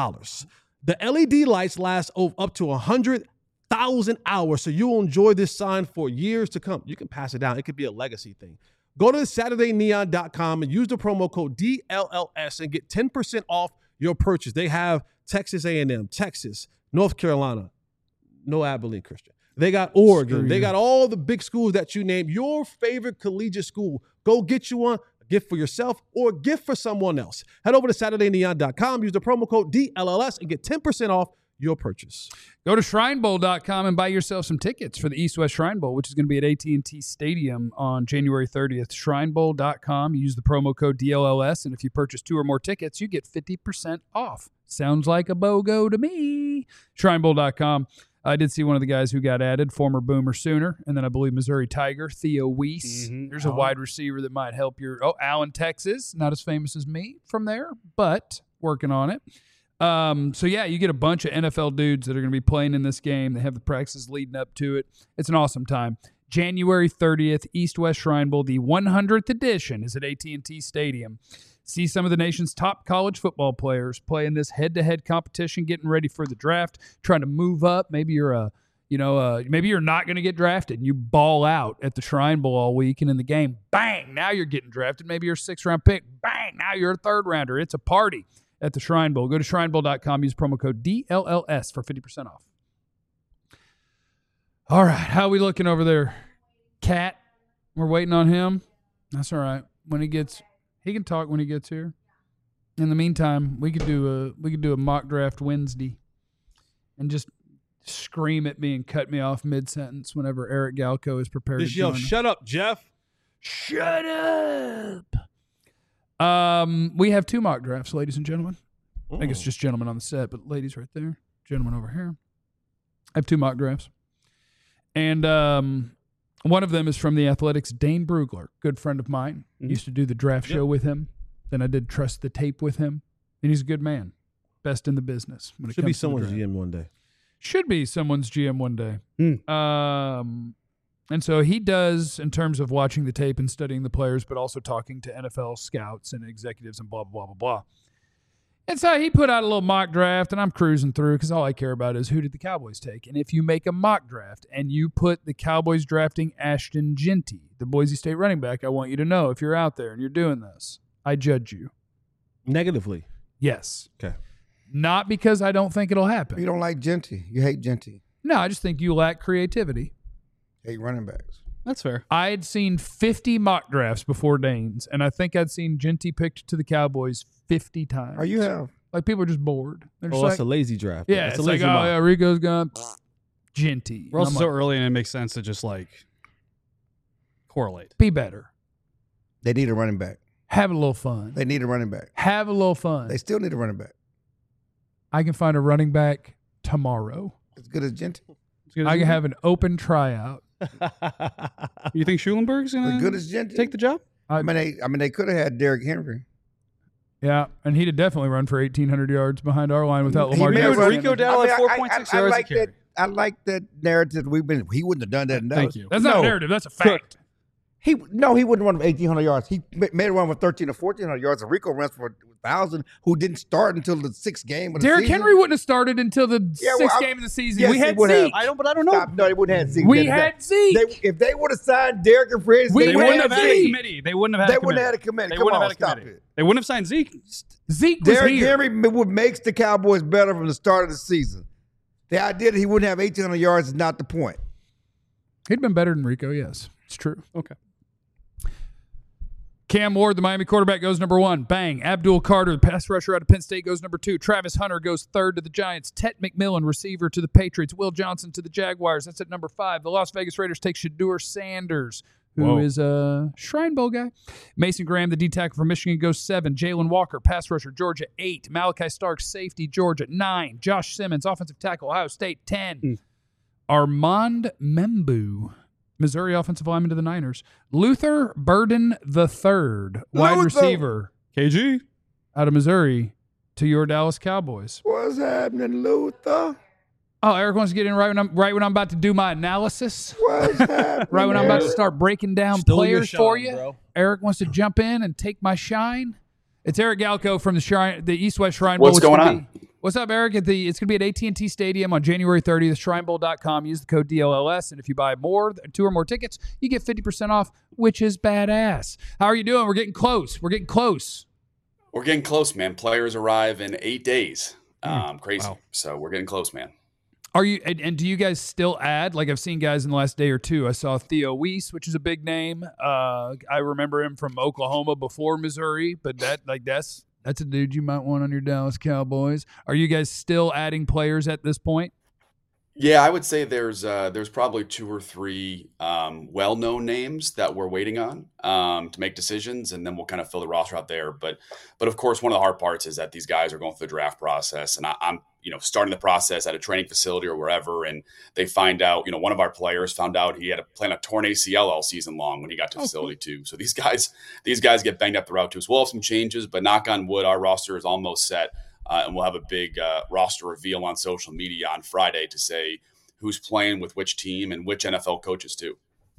The LED lights last up to 100,000 hours, so you'll enjoy this sign for years to come. You can pass it down. It could be a legacy thing. Go to SaturdayNeon.com and use the promo code DLLS and get 10% off your purchase. They have Texas A&M, Texas, North Carolina, no Abilene Christian. They got Oregon. They got all the big schools that you name. Your favorite collegiate school. Go get you one. Gift for yourself or a gift for someone else. Head over to SaturdayNeon.com, use the promo code DLLS, and get 10% off your purchase. Go to ShrineBowl.com and buy yourself some tickets for the East-West Shrine Bowl, which is going to be at AT&T Stadium on January 30th. ShrineBowl.com, use the promo code DLLS, and if you purchase 2 or more tickets, you get 50% off. Sounds like a BOGO to me. ShrineBowl.com. I did see one of the guys who got added, former Boomer Sooner, and then I believe Missouri Tiger, Theo Weiss. Mm-hmm. There's a wide receiver that might help your Allen, Texas. Not as famous as me from there, but working on it. So, yeah, you get a bunch of NFL dudes that are going to be playing in this game. They have the practices leading up to it. It's an awesome time. January 30th, East-West Shrine Bowl, the 100th edition is at AT&T Stadium. See some of the nation's top college football players play in this head-to-head competition, getting ready for the draft, trying to move up. Maybe you're maybe you're not going to get drafted and you ball out at the Shrine Bowl all week, and in the game, bang, now you're getting drafted. Maybe you're a 6th-round pick. Bang, now you're a 3rd-rounder. It's a party at the Shrine Bowl. Go to ShrineBowl.com, use promo code DLLS for 50% off. All right, how are we looking over there? Cat, we're waiting on him. That's all right. When he can talk when he gets here. In the meantime, we could do a mock draft Wednesday and just scream at me and cut me off mid-sentence whenever Eric Galko is prepared to join us. Shut up, Jeff. Shut up. We have 2 mock drafts, ladies and gentlemen. I think it's just gentlemen on the set, but ladies right there, gentlemen over here. I have 2 mock drafts. And one of them is from The Athletic's Dane Brugler, good friend of mine. Used to do the draft show with him. Then I did Trust the Tape with him. And he's a good man. Best in the business. When it Should be comes to someone's the draft. GM one day. Should be someone's GM one day. And so he does in terms of watching the tape and studying the players, but also talking to NFL scouts and executives and blah, blah, blah, blah. And so he put out a little mock draft, and I'm cruising through because all I care about is who did the Cowboys take. And if you make a mock draft and you put the Cowboys drafting Ashton Jeanty, the Boise State running back, I want you to know if you're out there and you're doing this, I judge you. Negatively. Yes. Okay. Not because I don't think it'll happen. You don't like Jeanty. You hate Jeanty. No, I just think you lack creativity. Hate running backs. That's fair. I had seen 50 mock drafts before Dane's, and I think I'd seen Jeanty picked to the Cowboys 50 times. Oh, you have. Like, people are just bored. They're just That's a lazy draft. yeah, That's it's a like, lazy mock. yeah, Rico's gone. Jeanty. We're also And I'm so like, early, and it makes sense to just correlate. be better. They need a running back. Have a little fun. They need a running back. Have a little fun. They still need a running back. I can find a running back tomorrow. As good as Jeanty. I can have an open tryout. You think Schulenberg's As going good to as Jeanty. take the job? I mean, they could have had Derrick Henry. Yeah, and he'd have definitely run for 1,800 yards behind our line without He Lamar may have Jackson. run- Rico down like 4.6 I yards like a carry. that. I like that narrative. He wouldn't have done that. Thank you. That's not a narrative. That's a fact. He wouldn't run for 1,800 yards. He made a run for 1,300 or 1,400 yards. And Rico runs for 1,000, who didn't start until the sixth game of the Derrick season. Henry wouldn't have started until the sixth game of the season. Yes, we he had would have. Zeke. I don't know. Stop. No, they wouldn't have Zeke. We had Zeke. If they would have signed Derrick and free agency, We They would wouldn't have have had a Zeke. committee. They wouldn't have had They a wouldn't committee. have had a committee. They Come wouldn't on, have had a stop committee. it. They wouldn't have signed Zeke. Zeke was Derrick here. Henry, what makes the Cowboys better from the start of the season. The idea that he wouldn't have 1,800 yards is not the point. He'd been better than Rico, yes. It's true. Okay. Cam Ward, the Miami quarterback, goes number 1. Bang. Abdul Carter, the pass rusher out of Penn State, goes number 2. Travis Hunter goes 3rd to the Giants. Tet McMillan, receiver, to the Patriots. Will Johnson to the Jaguars. That's at number 5. The Las Vegas Raiders take Shedeur Sanders, who is a Shrine Bowl guy. Mason Graham, the D-tackle from Michigan, goes 7. Jalen Walker, pass rusher, Georgia, 8. Malachi Starks, safety, Georgia, 9. Josh Simmons, offensive tackle, Ohio State, 10. Armand Membu, Missouri offensive lineman to the Niners. Luther Burden III, wide receiver KG. out of Missouri, to your Dallas Cowboys. What's happening, Luther? Oh, Eric wants to get in right when I'm about to do my analysis. What's happening? Right when I'm about to start breaking down Stole your players shine, for you. bro. Eric wants to jump in and take my shine. It's Eric Galco from the East West Shrine Bowl. What's going on? What's up, Eric? It's going to be at AT&T Stadium on January 30th. ShrineBowl.com. Use the code DLLS, and if you buy 2 or more tickets, you get 50% off, which is badass. How are you doing? We're getting close. We're getting close, man. Players arrive in 8 days. Crazy. Wow. So we're getting close, man. Are you? And do you guys still add? Like I've seen guys in the last day or two. I saw Theo Weiss, which is a big name. I remember him from Oklahoma before Missouri, but that's a dude you might want on your Dallas Cowboys. Are you guys still adding players at this point? Yeah, I would say there's probably 2 or 3 well-known names that we're waiting on to make decisions, and then we'll kind of fill the roster out there. But of course, one of the hard parts is that these guys are going through the draft process, and I'm starting the process at a training facility or wherever, and they find out, one of our players found out he had planned a torn ACL all season long when he got to the facility too. So these guys get banged up the route too. So we'll have some changes, but knock on wood, our roster is almost set. And we'll have a big roster reveal on social media on Friday to say who's playing with which team and which NFL coaches too.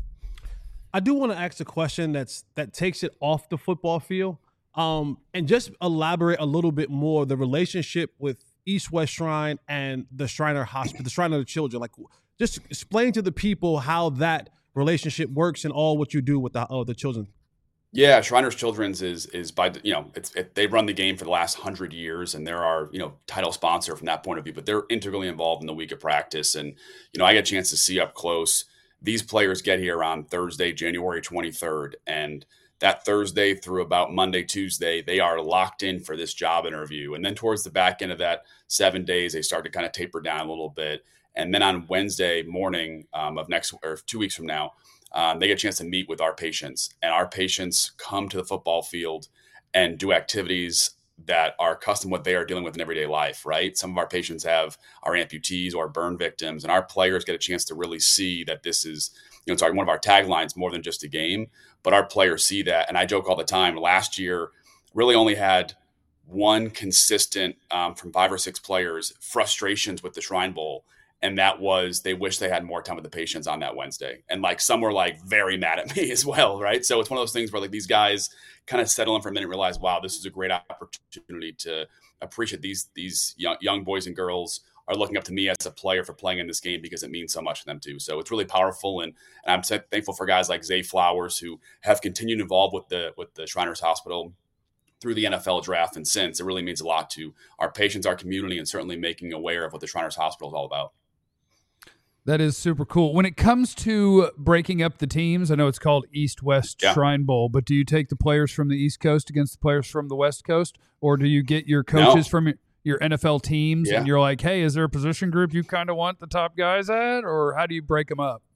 I do want to ask a question that takes it off the football field, and just elaborate a little bit more the relationship with East West Shrine and the Shriner Hospital, the Shrine of the Children. Like, just explain to the people how that relationship works and all what you do with the children. Yeah, Shriners Children's is by they run the game for the last 100 years, and they're our title sponsor from that point of view. But they're integrally involved in the week of practice, and I get a chance to see up close. These players get here on Thursday, January 23rd, and that Thursday through about Monday, Tuesday, they are locked in for this job interview. And then towards the back end of that 7 days, they start to kind of taper down a little bit. And then on Wednesday morning of 2 weeks from now, they get a chance to meet with our patients. And our patients come to the football field and do activities that are custom what they are dealing with in everyday life, right? Some of our patients are amputees or burn victims, and our players get a chance to really see that this is, it's one of our taglines, more than just a game, but our players see that. And I joke all the time, last year really only had one consistent from 5 or 6 players frustrations with the Shrine Bowl. And that was, they wish they had more time with the patients on that Wednesday. And some were very mad at me as well, right? So it's one of those things where these guys kind of settle in for a minute and realize, wow, this is a great opportunity to appreciate these young boys and girls are looking up to me as a player for playing in this game because it means so much to them too. So it's really powerful. And I'm thankful for guys like Zay Flowers who have continued involved with the Shriners Hospital through the NFL draft and since. It really means a lot to our patients, our community, and certainly making aware of what the Shriners Hospital is all about. That is super cool. When it comes to breaking up the teams, I know it's called East-West Shrine Bowl, but do you take the players from the East Coast against the players from the West Coast, or do you get your coaches from your NFL teams and you're like, hey, is there a position group you kind of want the top guys at, or how do you break them up?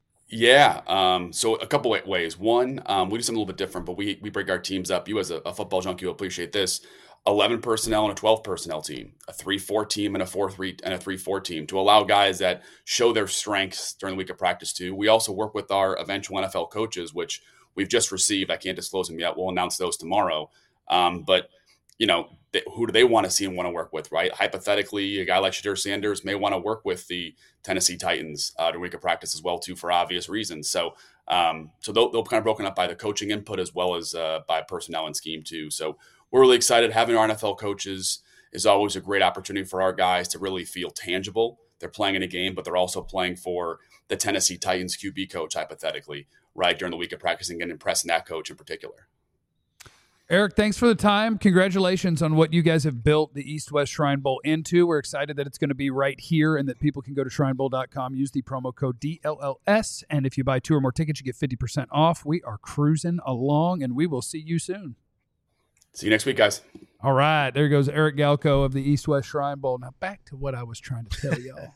Yeah. So a couple ways. One, we do something a little bit different, but we break our teams up. You as a football junkie will appreciate this. 11 personnel and a 12 personnel team, a 3-4 team and a 4-3 and a 3-4 team to allow guys that show their strengths during the week of practice too. We also work with our eventual NFL coaches, which we've just received. I can't disclose them yet. We'll announce those tomorrow. But who do they want to see and want to work with, right? Hypothetically, a guy like Shedeur Sanders may want to work with the Tennessee Titans during week of practice as well too, for obvious reasons. So So they'll kind of broken up by the coaching input as well as by personnel and scheme too. So we're really excited. Having our NFL coaches is always a great opportunity for our guys to really feel tangible. They're playing in a game, but they're also playing for the Tennessee Titans QB coach, hypothetically, right, during the week of practicing and impressing that coach in particular. Eric, thanks for the time. Congratulations on what you guys have built the East-West Shrine Bowl into. We're excited that it's going to be right here and that people can go to shrinebowl.com, use the promo code DLLS, and if you buy 2 or more tickets, you get 50% off. We are cruising along, and we will see you soon. See you next week, guys. All right, there goes Eric Galko of the East-West Shrine Bowl. Now back to what I was trying to tell y'all.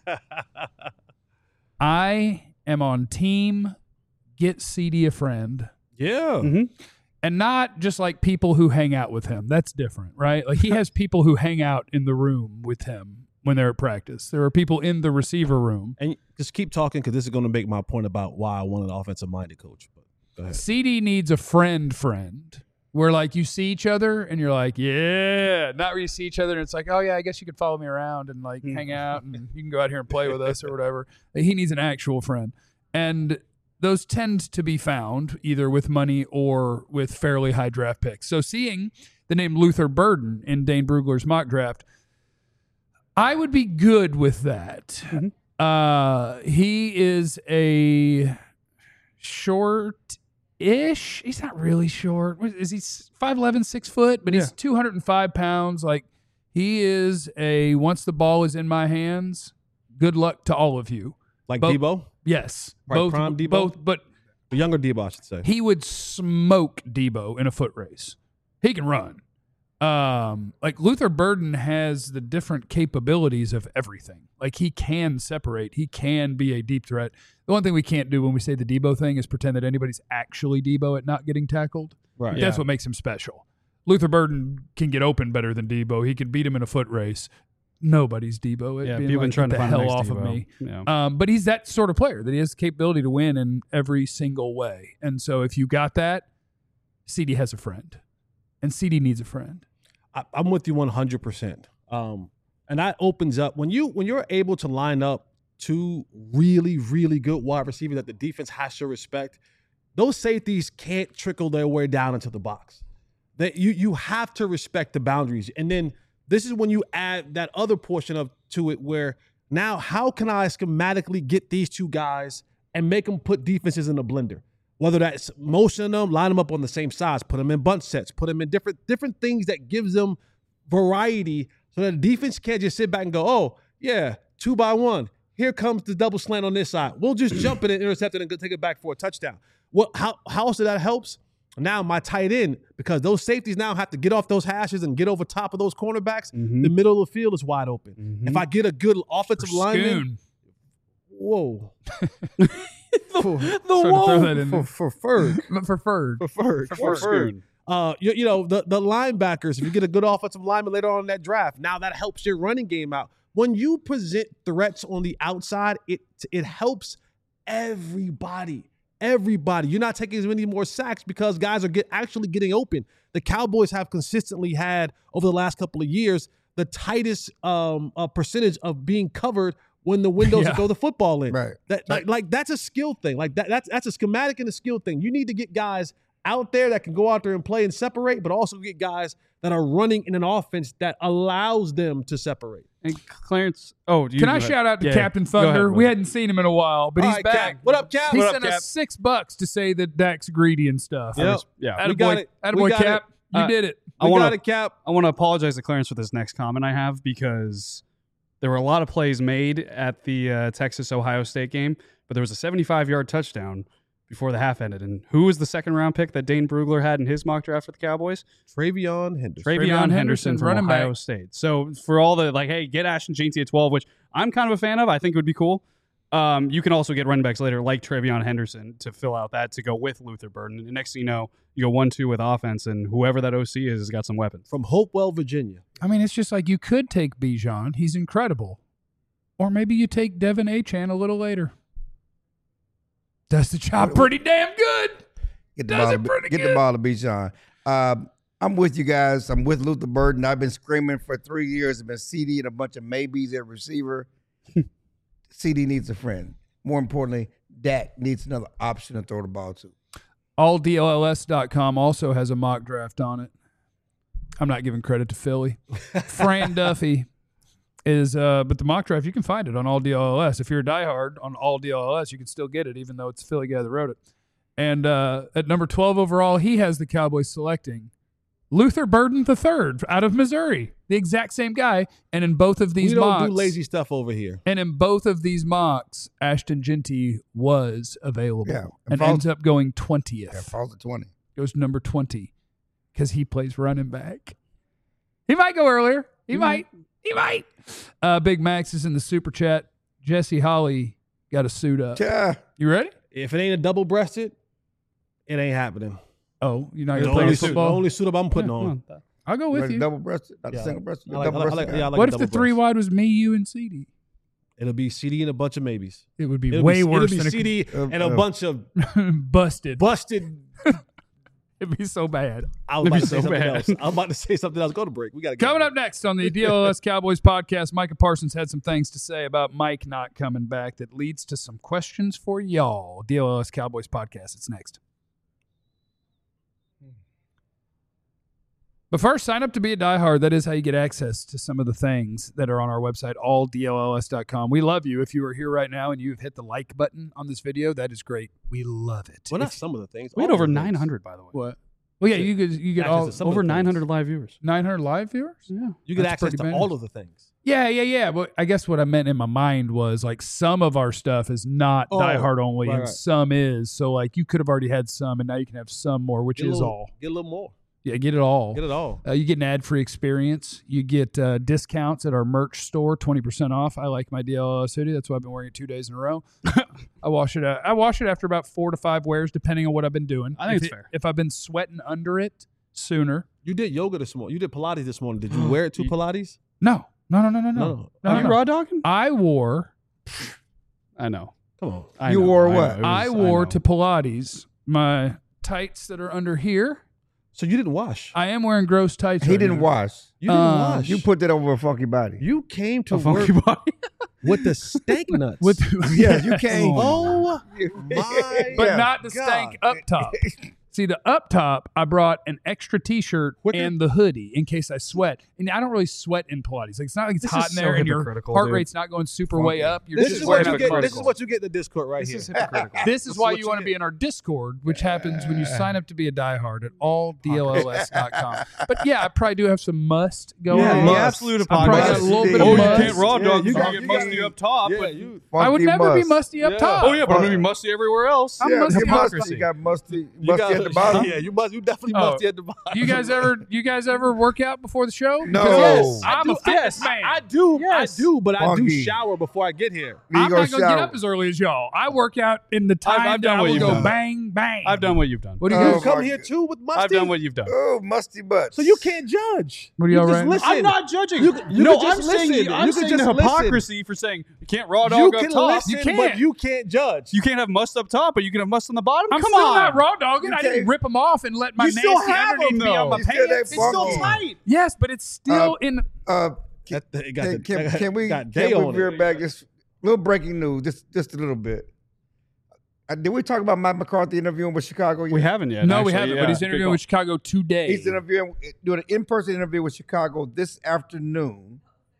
I am on team get CD a friend. Yeah. Mm-hmm. And not just like people who hang out with him. That's different, right? Like he has people who hang out in the room with him when they're at practice. There are people in the receiver room. And just keep talking because this is going to make my point about why I wanted an offensive-minded coach. But go ahead. CD needs a friend where like you see each other and you're like, yeah, not where you see each other and it's like, oh yeah, I guess you could follow me around and like hang out and you can go out here and play with us or whatever. Like, he needs an actual friend. And those tend to be found either with money or with fairly high draft picks. So seeing the name Luther Burden in Dane Brugler's mock draft, I would be good with that. Mm-hmm. He is a short-ish. He's not really short. Is he 5'11", 6 foot? But he's 205 pounds. Like he is a once the ball is in my hands, good luck to all of you. Like Debo? Yes. Right, prime Debo? But the younger Debo, I should say. He would smoke Debo in a foot race. He can run. Like Luther Burden has the different capabilities of everything. Like he can separate. He can be a deep threat. The one thing we can't do when we say the Debo thing is pretend that anybody's actually Debo at not getting tackled. Right. That's what makes him special. Luther Burden can get open better than Debo. He can beat him in a foot race. Nobody's Debo. Yeah, being people like, been trying get to the find the hell next off of Debo. me. Yeah. But he's that sort of player that he has the capability to win in every single way. And so if you got that, CD has a friend, and CD needs a friend. I'm with you 100%. And that opens up when you're able to line up 2 really, really good wide receivers that the defense has to respect. Those safeties can't trickle their way down into the box. That you have to respect the boundaries, and then. This is when you add that other portion to it where now how can I schematically get these 2 guys and make them put defenses in a blender? Whether that's motion them, line them up on the same size, put them in bunch sets, put them in different things that gives them variety so that the defense can't just sit back and go, oh, yeah, 2 by 1. Here comes the double slant on this side. We'll just jump in and intercept it and take it back for a touchdown. How else that helps? Now my tight end, because those safeties now have to get off those hashes and get over top of those cornerbacks, the middle of the field is wide open. Mm-hmm. If I get a good offensive lineman, whoa. For Ferg. The linebackers, if you get a good offensive lineman later on in that draft, now that helps your running game out. When you present threats on the outside, it helps everybody. Everybody. You're not taking as many more sacks because guys are actually getting open. The Cowboys have consistently had, over the last couple of years, the tightest percentage of being covered when the windows throw the football in. Right. That's a skill thing. Like that's a schematic and a skill thing. You need to get guys out there that can go out there and play and separate, but also get guys that are running in an offense that allows them to separate. And Clarence, can I shout out to Captain Thunder? We hadn't seen him in a while, but he's back. Cap. What up, Cap? He What sent up, Cap? us $6 to say that Dak's greedy and stuff. Yep. Yeah. We got it. Attaboy, We got Cap. You did it. We got it, Cap. I want to apologize to Clarence for this next comment I have because there were a lot of plays made at the Texas-Ohio State game, but there was a 75-yard touchdown before the half ended. And who was the second-round pick that Dane Brugler had in his mock draft for the Cowboys? Travion Henderson. Travion Henderson from running Ohio back. State. So for all the, hey, get Ashton Jeanty at 12, which I'm kind of a fan of. I think it would be cool. You can also get running backs later like Travion Henderson to fill out that to go with Luther Burden. And the next thing you know, you go 1-2 with offense, and whoever that OC is has got some weapons. From Hopewell, Virginia. I mean, it's just like you could take Bijan. He's incredible. Or maybe you take Devin Achane a little later. Does the job pretty damn good. Get the ball to Bijan. I'm with you guys. I'm with Luther Burden. I've been screaming for 3 years. I've been CD and a bunch of maybes at receiver. CD needs a friend. More importantly, Dak needs another option to throw the ball to. AllDLLS.com also has a mock draft on it. I'm not giving credit to Philly. Fran Duffy is, but the mock draft, you can find it on AllDLLS. If you're a diehard on AllDLLS, you can still get it, even though it's the Philly guy that wrote it. And at number 12 overall, he has the Cowboys selecting Luther Burden III out of Missouri, the exact same guy. And in both of these we don't mocks, do lazy stuff over here. And in both of these mocks, Ashton Genty was available and falls- ends up going 20th. Yeah, falls to 20. Goes to number 20 because he plays running back. He might go earlier. He might. Big Max is in the super chat. Jesse Holly got a suit up. Yeah. You ready? If it ain't a double-breasted, it ain't happening. Oh, you're not The going to play only, any football? the only suit up I'm putting on. I'll go with Ready you. double-breasted? Not the Yeah. single-breasted? I like Double-breasted guy. a What if the double three breast. wide was me, you, and CD? It'll be CD and a bunch of maybes. It would be It'll way be, worse it'll than be CD and a bunch of busted. busted. It'd be so bad. I was about to say so something bad. else. I'm about to say something else. Go to break. We got to Coming up next on the DLS Cowboys podcast, Micah Parsons had some things to say about Mike not coming back that leads to some questions for y'all. DLS Cowboys podcast. It's next. But first, sign up to be a diehard. That is how you get access to some of the things that are on our website, alldlls.com. We love you. If you are here right now and you've hit the like button on this video, that is great. We love it. Well, not some of the things. We had all over of the things. 900, by the way. What? Well, yeah, you get Access all to some of Over the things. 900 live viewers. 900 live viewers. Yeah. You get That's access pretty to bad. all of the things. Yeah. But I guess what I meant in my mind was like some of our stuff is not Oh, diehard only, right, and right. some is. So like you could have already had some, and now you can have some more, which Get a is little- all. Get a little more. Yeah, get it all. Get it all. You get an ad-free experience. You get discounts at our merch store, 20% off. I like my DLS hoodie. That's why I've been wearing it 2 days in a row. I wash it after about 4 to 5 wears, depending on what I've been doing. I think it's If fair. If I've been sweating under it sooner. You did yoga this morning. You did Pilates this morning. Did you wear it to Pilates? No. No. Are you no. raw dogging? I wore I know. Come on. I You know. wore I what? know. It was- I I wore know. to Pilates my tights that are under here. So you didn't wash. I am wearing gross tights. He right didn't now. wash. You didn't Uh, wash. You put that over a funky body. You came to a work funky body. with the stank nuts. With Yes, you can't. oh my! but Yeah. not the stank up top. See, the up top, I brought an extra T-shirt What the- and the hoodie in case I sweat. And I don't really sweat in Pilates. Like it's not like it's This hot is in so there and your hypocritical, heart dude. rate's not going super way up. You're This just is wearing what you out get. the This is article. what you get in the Discord right This here. is hypocritical. This is why what you you want to get. be in our Discord, which happens when you sign up to be a diehard at alldlls.com. But yeah, I probably do have some must going Yeah, on. the absolute I probably got a apology. little bit Oh, of you must. can't raw dog, you get get musty up top. Yeah, but you. I would Funky never be must. musty up Yeah. top. Oh yeah, but I'm gonna be musty everywhere else. I'm Yeah, musty. you musty. Hypocrisy. You got musty You got at the bottom. Yeah, you definitely Oh. musty at the bottom. You guys ever work out before the show? No. Because Yes, I'm a fitness man. I do. Yes. I do, but I do Funky. shower before I get here. You I'm go not gonna get shower. up as early as y'all. I work out in the time I've that done I what will you've go done. bang bang. I've done what you've done. What do you Oh, guys? You come my here God. too with musty. I've done what you've done. Oh, musty butts. So you can't judge. What are y'all just writing? listen. I'm not judging. You no, can I'm just saying listen. I'm You can saying just the listen. hypocrisy for saying you can't raw You dog up can top. listen, You can't. but you can't judge. You can't have must up top, but you can have must on the bottom. I'm Come still on. not raw dogging. You I didn't can't- rip them off and let my You still nasty have underneath them, be on though. my You still pants. that funky. tight. Yes, but it's still in. Can, That got the- can we got day can we on veer it. back this little breaking news? Just a little bit. Did we talk about Mike McCarthy interviewing with Chicago? Yet? We haven't yet. No, we actually. haven't. Yeah, But he's good interviewing call. with Chicago today. He's interviewing, doing an in-person interview with Chicago this afternoon.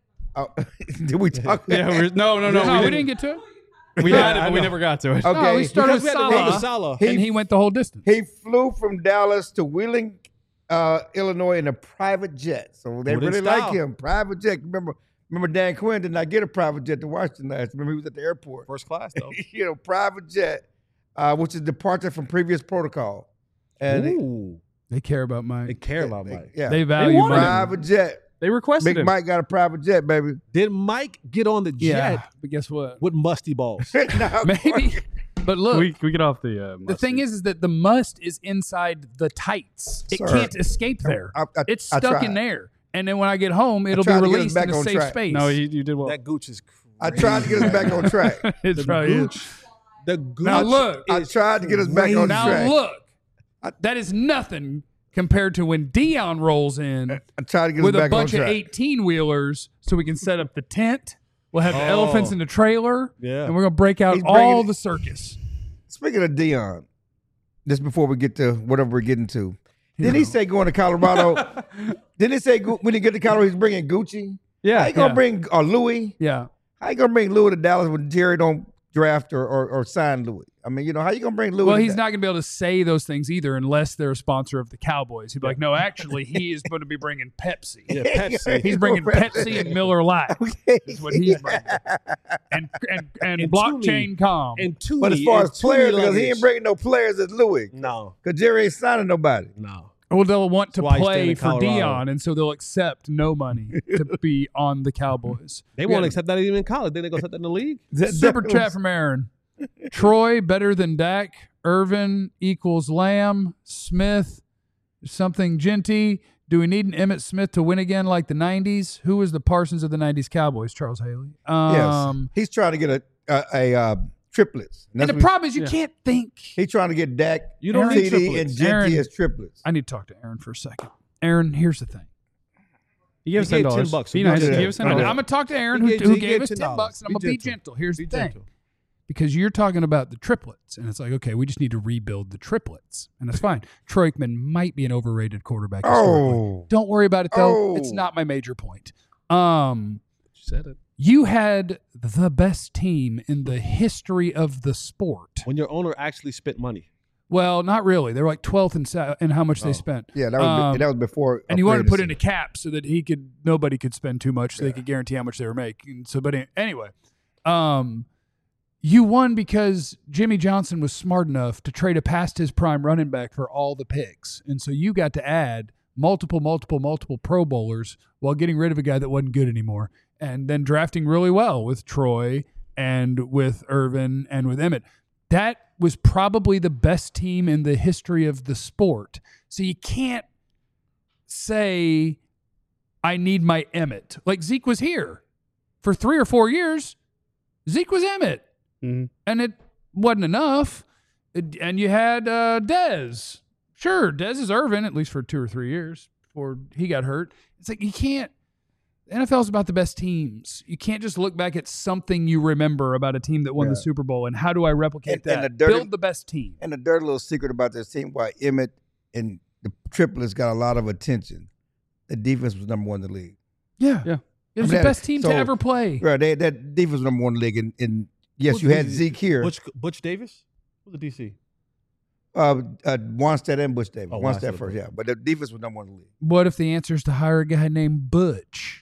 Did we talk? Yeah, no, No, we didn't get to it. We Yeah, had it, I but we know. never got to it. Okay. No, we started Because with we had to wait for Salah, Salah. and he went the whole distance. He flew from Dallas to Wheeling, Illinois in a private jet. So they Wooden really style. like him. Private jet. Remember Dan Quinn did not get a private jet to Washington last. Remember he was at the airport. First class though. Private jet, which is departure from previous protocol. And Ooh, They care about Mike. they care about Mike. yeah, They value wanted Mike. private jet. They requested Big him. Mike got a private jet, baby. Did Mike get on the Yeah, jet but guess what? with musty balls? Nah, Maybe. But look, We get off the. the thing is that the must is inside the tights. It Sir, can't escape there. I It's I stuck tried. in there. And then when I get home, it'll be tried to get us released back in a on safe track. space. No, you did well. That gooch is crazy. I tried to get us back on track. It's The probably gooch. The gooch. Now look. I is tried to get us back on Now track. look, that is nothing compared to when Dion rolls in I tried to get us with a back on bunch of track. 18-wheelers so we can set up the tent. We'll have the Oh. elephants in the trailer. Yeah. And we're going to break out He's bringing all it- the circus. speaking of Deion, just before we get to whatever we're getting to, didn't he say going to Colorado? Didn't he say when he get to Colorado he's bringing Gucci? Yeah. How you gonna bring Louis? Yeah. How you gonna bring Louis to Dallas when Jerry don't draft or sign Louis? I mean, how you gonna bring Louis? Well, he's not going to be able to say those things either unless they're a sponsor of the Cowboys. He'd be like, no, actually, he is going to be bringing Pepsi. Yeah, Pepsi. He's bringing Pepsi and Miller Lite. Okay. Is what he's bringing. And blockchain com. And Tooney. But as far as players, because he luggage. ain't bringing no players as Louis. No. Because Jerry ain't signing nobody. No. Well, they'll want to That's why he's staying play in for Colorado. Dion, and so they'll accept no money to be on the Cowboys. They won't accept that even in college. Then they gonna accept that in the league. Super chat from Aaron. Troy better than Dak. Irvin equals Lamb. Smith something Genty. Do we need an Emmitt Smith to win again like the 90s? Who was the Parsons of the 90s Cowboys? Charles Haley. Yes. He's trying to get a triplets. And the problem is you can't think. He's trying to get Dak, You don't need CD, triplets. and Genty Aaron- as triplets. I need to talk to Aaron for a second. Aaron, here's the thing. He gave us He gave $10. $10. Be nice. Yeah. Give us I'm $10. going to talk to Aaron He who gave gave us $10. $10, and I'm going to be gentle. Here's the Be thing. gentle. Because you're talking about the triplets, and it's like, okay, we just need to rebuild the triplets, and that's fine. Troy Aikman might be an overrated quarterback. Oh. Don't worry about it, though. Oh. It's not my major point. You said it. You had the best team in the history of the sport. When your owner actually spent money. Well, not really. They were like 12th in how much they spent. Yeah, that was before. And you wanted to put in a upgraded. cap so that nobody could spend too much, so they could guarantee how much they were making. So, but anyway, you won because Jimmy Johnson was smart enough to trade a past his prime running back for all the picks, and so you got to add multiple Pro Bowlers while getting rid of a guy that wasn't good anymore, and then drafting really well with Troy and with Irvin and with Emmett. That was probably the best team in the history of the sport. So you can't say, I need my Emmett. Like Zeke was here for 3 or 4 years. Zeke was Emmett. Mhm. And it wasn't enough. And you had Dez. Sure, Dez is Irvin, at least for 2 or 3 years before he got hurt. It's like you can't. The NFL is about the best teams. You can't just look back at something you remember about a team that won the Super Bowl and how do I replicate that? And Build the best team. And the dirty little secret about this team, why Emmett and the triplets got a lot of attention. The defense was number 1 in the league. Yeah. Yeah. It was I mean, the best team so- to ever play. Right, that defense was number 1 in the league. And yes, you had Zeke here. Butch Davis? Who's the DC? Wanstead and Bush Davis. Oh, Wanstead Wanstead, first, yeah. But the defense was number 1 in the league. What if the answer is to hire a guy named Butch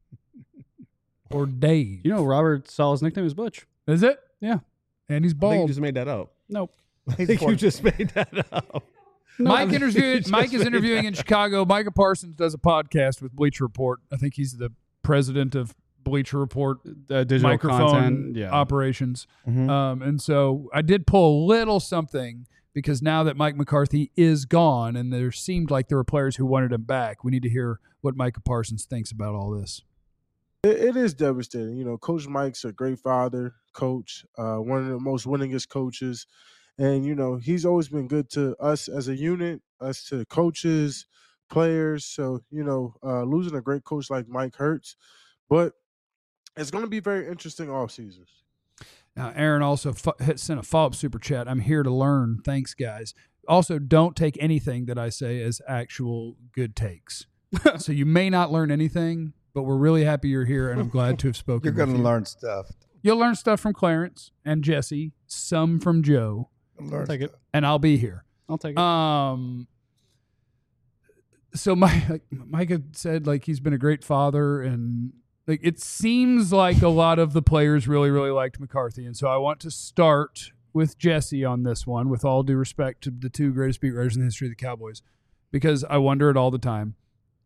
or Dave? You know, Robert Sala's nickname is Butch. Is it? Yeah. And he's I think you bald. just made that up. Nope. I think you just made that up. Mike is interviewing in Chicago. Micah Parsons does a podcast with Bleacher Report. I think he's the president of Bleacher Report Digital microphone content. Yeah. operations. Mhm. And so I did pull a little something because now that Mike McCarthy is gone and there seemed like there were players who wanted him back, we need to hear what Micah Parsons thinks about all this. It is devastating. You know, Coach Mike's a great father, coach, one of the most winningest coaches. And, you know, he's always been good to us as a unit, us to coaches, players. So, you know, losing a great coach like Mike hurts. But it's going to be very interesting off seasons. Now, Aaron also sent a follow-up super chat. I'm here to learn. Thanks, guys. Also, don't take anything that I say as actual good takes. So you may not learn anything, but we're really happy you're here, and I'm glad to have spoken You're going with to you. learn stuff. You'll learn stuff from Clarence and Jesse, some from Joe, Learn Take it. stuff. and I'll be here. I'll take it. So Mike had said like he's been a great father, and like it seems like a lot of the players really, really liked McCarthy, and so I want to start with Jesse on this one, with all due respect to the 2 greatest beat writers in the history of the Cowboys, because I wonder it all the time.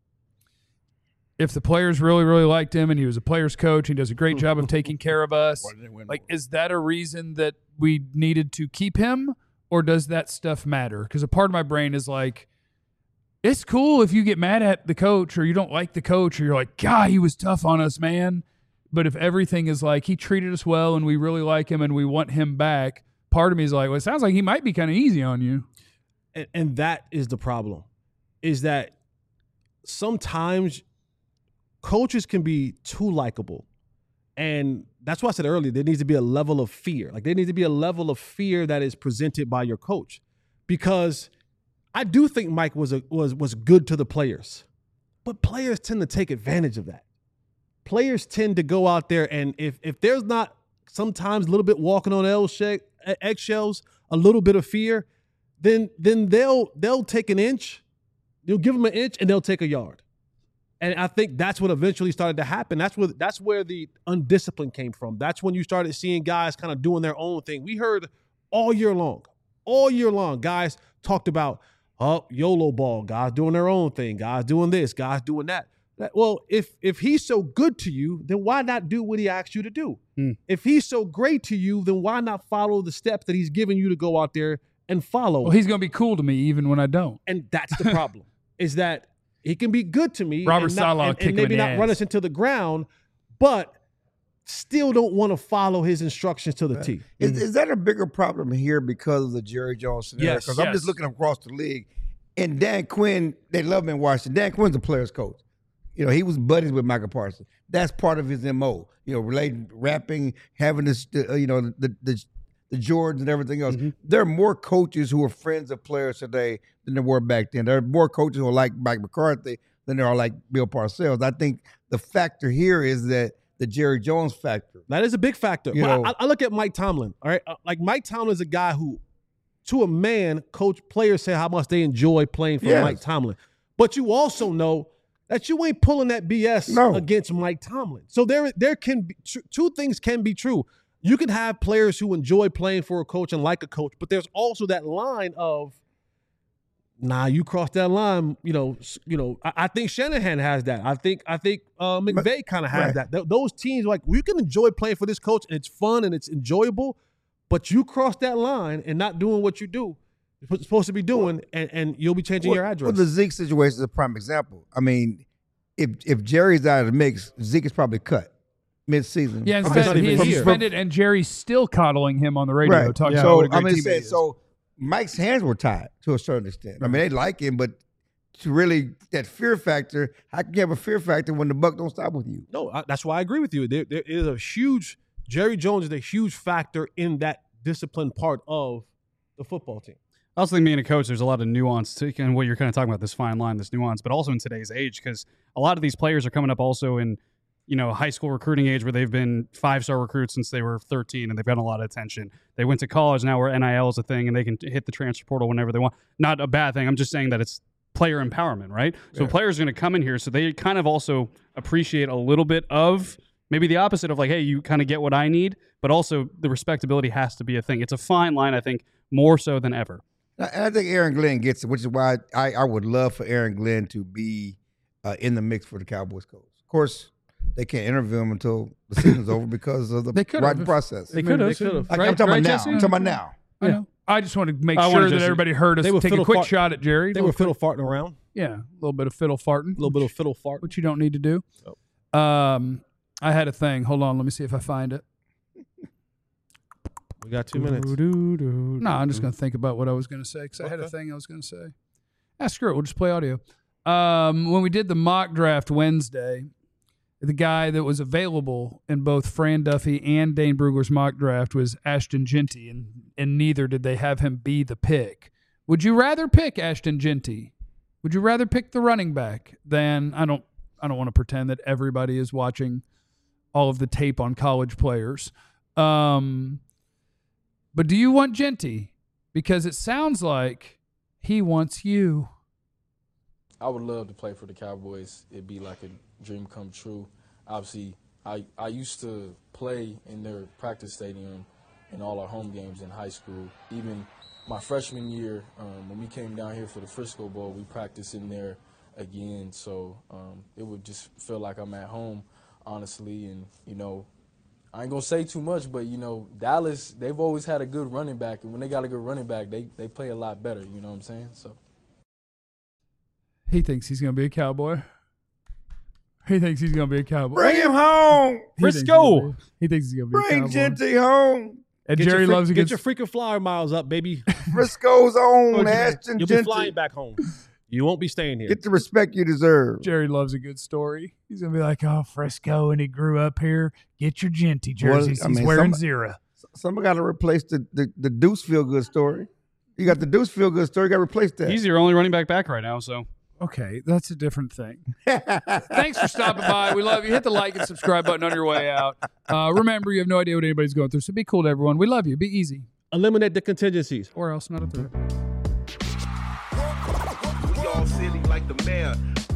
If the players really, really liked him and he was a player's coach, he does a great job of taking care of us, like, is that a reason that we needed to keep him, or does that stuff matter? Because a part of my brain is like, it's cool if you get mad at the coach or you don't like the coach or you're like, God, he was tough on us, man. But if everything is like, he treated us well and we really like him and we want him back, part of me is like, well, it sounds like he might be kind of easy on you. And that is the problem, is that sometimes coaches can be too likable, and that's why I said earlier, there needs to be a level of fear. Like there needs to be a level of fear that is presented by your coach, because I do think Mike was good to the players, but players tend to take advantage of that. Players tend to go out there, and if there's not sometimes a little bit walking on eggshells, a little bit of fear, then they'll take an inch. You'll give them an inch and they'll take a yard. And I think that's what eventually started to happen. That's where the undiscipline came from. That's when you started seeing guys kind of doing their own thing. We heard all year long, guys talked about, YOLO ball, guys doing their own thing, guys doing this, guys doing that. Well, if he's so good to you, then why not do what he asked you to do? If he's so great to you, then why not follow the steps that he's giving you to go out there and follow? Well, he's going to be cool to me even when I don't. And that's the problem, is that he can be good to me Robert Saleh and maybe not run us into the ground, but still don't want to follow his instructions to the T. Is that a bigger problem here because of the Jerry Jones scenario? Yes. Because I'm just looking across the league, and Dan Quinn, they love him in Washington. Dan Quinn's a player's coach. You know, he was buddies with Michael Parsons. That's part of his MO. You know, rapping, having this, the Jordans and everything else. There are more coaches who are friends of players today than there were back then. There are more coaches who are like Mike McCarthy than there are like Bill Parcells. I think the factor here is that the Jerry Jones factor. That is a big factor. I look at Mike Tomlin, all right? Like Mike Tomlin is a guy who, to a man, players say how much they enjoy playing for Mike Tomlin. But you also know that you ain't pulling that BS against Mike Tomlin. So there can be two things can be true. You can have players who enjoy playing for a coach and like a coach, but there's also that line of, you cross that line. I think Shanahan has that. I think McVay kind of has that. Those teams, like, you can enjoy playing for this coach and it's fun and it's enjoyable, but you cross that line and not doing what you're supposed to be doing, and you'll be changing your address. Well, the Zeke situation is a prime example. I mean, if Jerry's out of the mix, Zeke is probably cut mid-season. Yeah, instead he is suspended, and Jerry's still coddling him on the radio. Talking about what a great teammate he is. So Mike's hands were tied to a certain extent. I mean, they like him, but to really that fear factor, how can you have a fear factor when the buck don't stop with you? No, that's why I agree with you. There is a huge Jerry Jones is a huge factor in that discipline part of the football team. I also think being a coach, there's a lot of nuance to and what you're kind of talking about, this fine line, this nuance, but also in today's age, because a lot of these players are coming up also in, high school recruiting age where they've been 5-star recruits since they were 13 and they've gotten a lot of attention. They went to college now where NIL is a thing and they can hit the transfer portal whenever they want. Not a bad thing. I'm just saying that it's player empowerment, right? So players are going to come in here, so they kind of also appreciate a little bit of maybe the opposite of like, hey, you kind of get what I need, but also the respectability has to be a thing. It's a fine line, I think, more so than ever. And I think Aaron Glenn gets it, which is why I would love for Aaron Glenn to be in the mix for the Cowboys coach. Of course, they can't interview him until the season's over because of the writing process. They could have. I'm talking about now. I'm talking about now. I know. I just wanted to make sure that everybody heard us take a quick shot at Jerry. They were fiddle farting around. Yeah, a little bit of fiddle farting. Which you don't need to do. I had a thing. Hold on. Let me see if I find it. We got 2 minutes. No, I'm just going to think about what I was going to say because I had a thing I was going to say. Screw it. We'll just play audio. When we did the mock draft Wednesday, the guy that was available in both Fran Duffy and Dane Brugler's mock draft was Ashton Jeanty, and neither did they have him be the pick. Would you rather pick Ashton Jeanty? Would you rather pick the running back than I don't want to pretend that everybody is watching all of the tape on college players. But do you want Jeanty? Because it sounds like he wants you. I would love to play for the Cowboys. It'd be like a dream come true. Obviously, I used to play in their practice stadium in all our home games in high school. Even my freshman year, when we came down here for the Frisco Bowl, we practiced in there again. So it would just feel like I'm at home, honestly. And, I ain't going to say too much, but, Dallas, they've always had a good running back. And when they got a good running back, they play a lot better, you know what I'm saying? So he thinks he's going to be a Cowboy. He thinks he's going to be a Cowboy. Bring him home. Frisco. He thinks he's going to be a Cowboy. Bring Jeanty home. And Jerry loves to get your freaking flyer miles up, baby. Frisco's own Ashton You'll Jeanty. be flying back home. You won't be staying here. Get the respect you deserve. Jerry loves a good story. He's going to be like, oh, Frisco, and he grew up here. Get your Genty jerseys. He's wearing Zero. Somebody got to replace the Deuce Feel Good story. You got the Deuce Feel Good story. You got to replace that. He's your only running back right now, so. Okay, that's a different thing. Thanks for stopping by. We love you. Hit the like and subscribe button on your way out. Remember, you have no idea what anybody's going through, so be cool to everyone. We love you. Be easy. Eliminate the contingencies. Or else not a threat. We all silly like the mayor.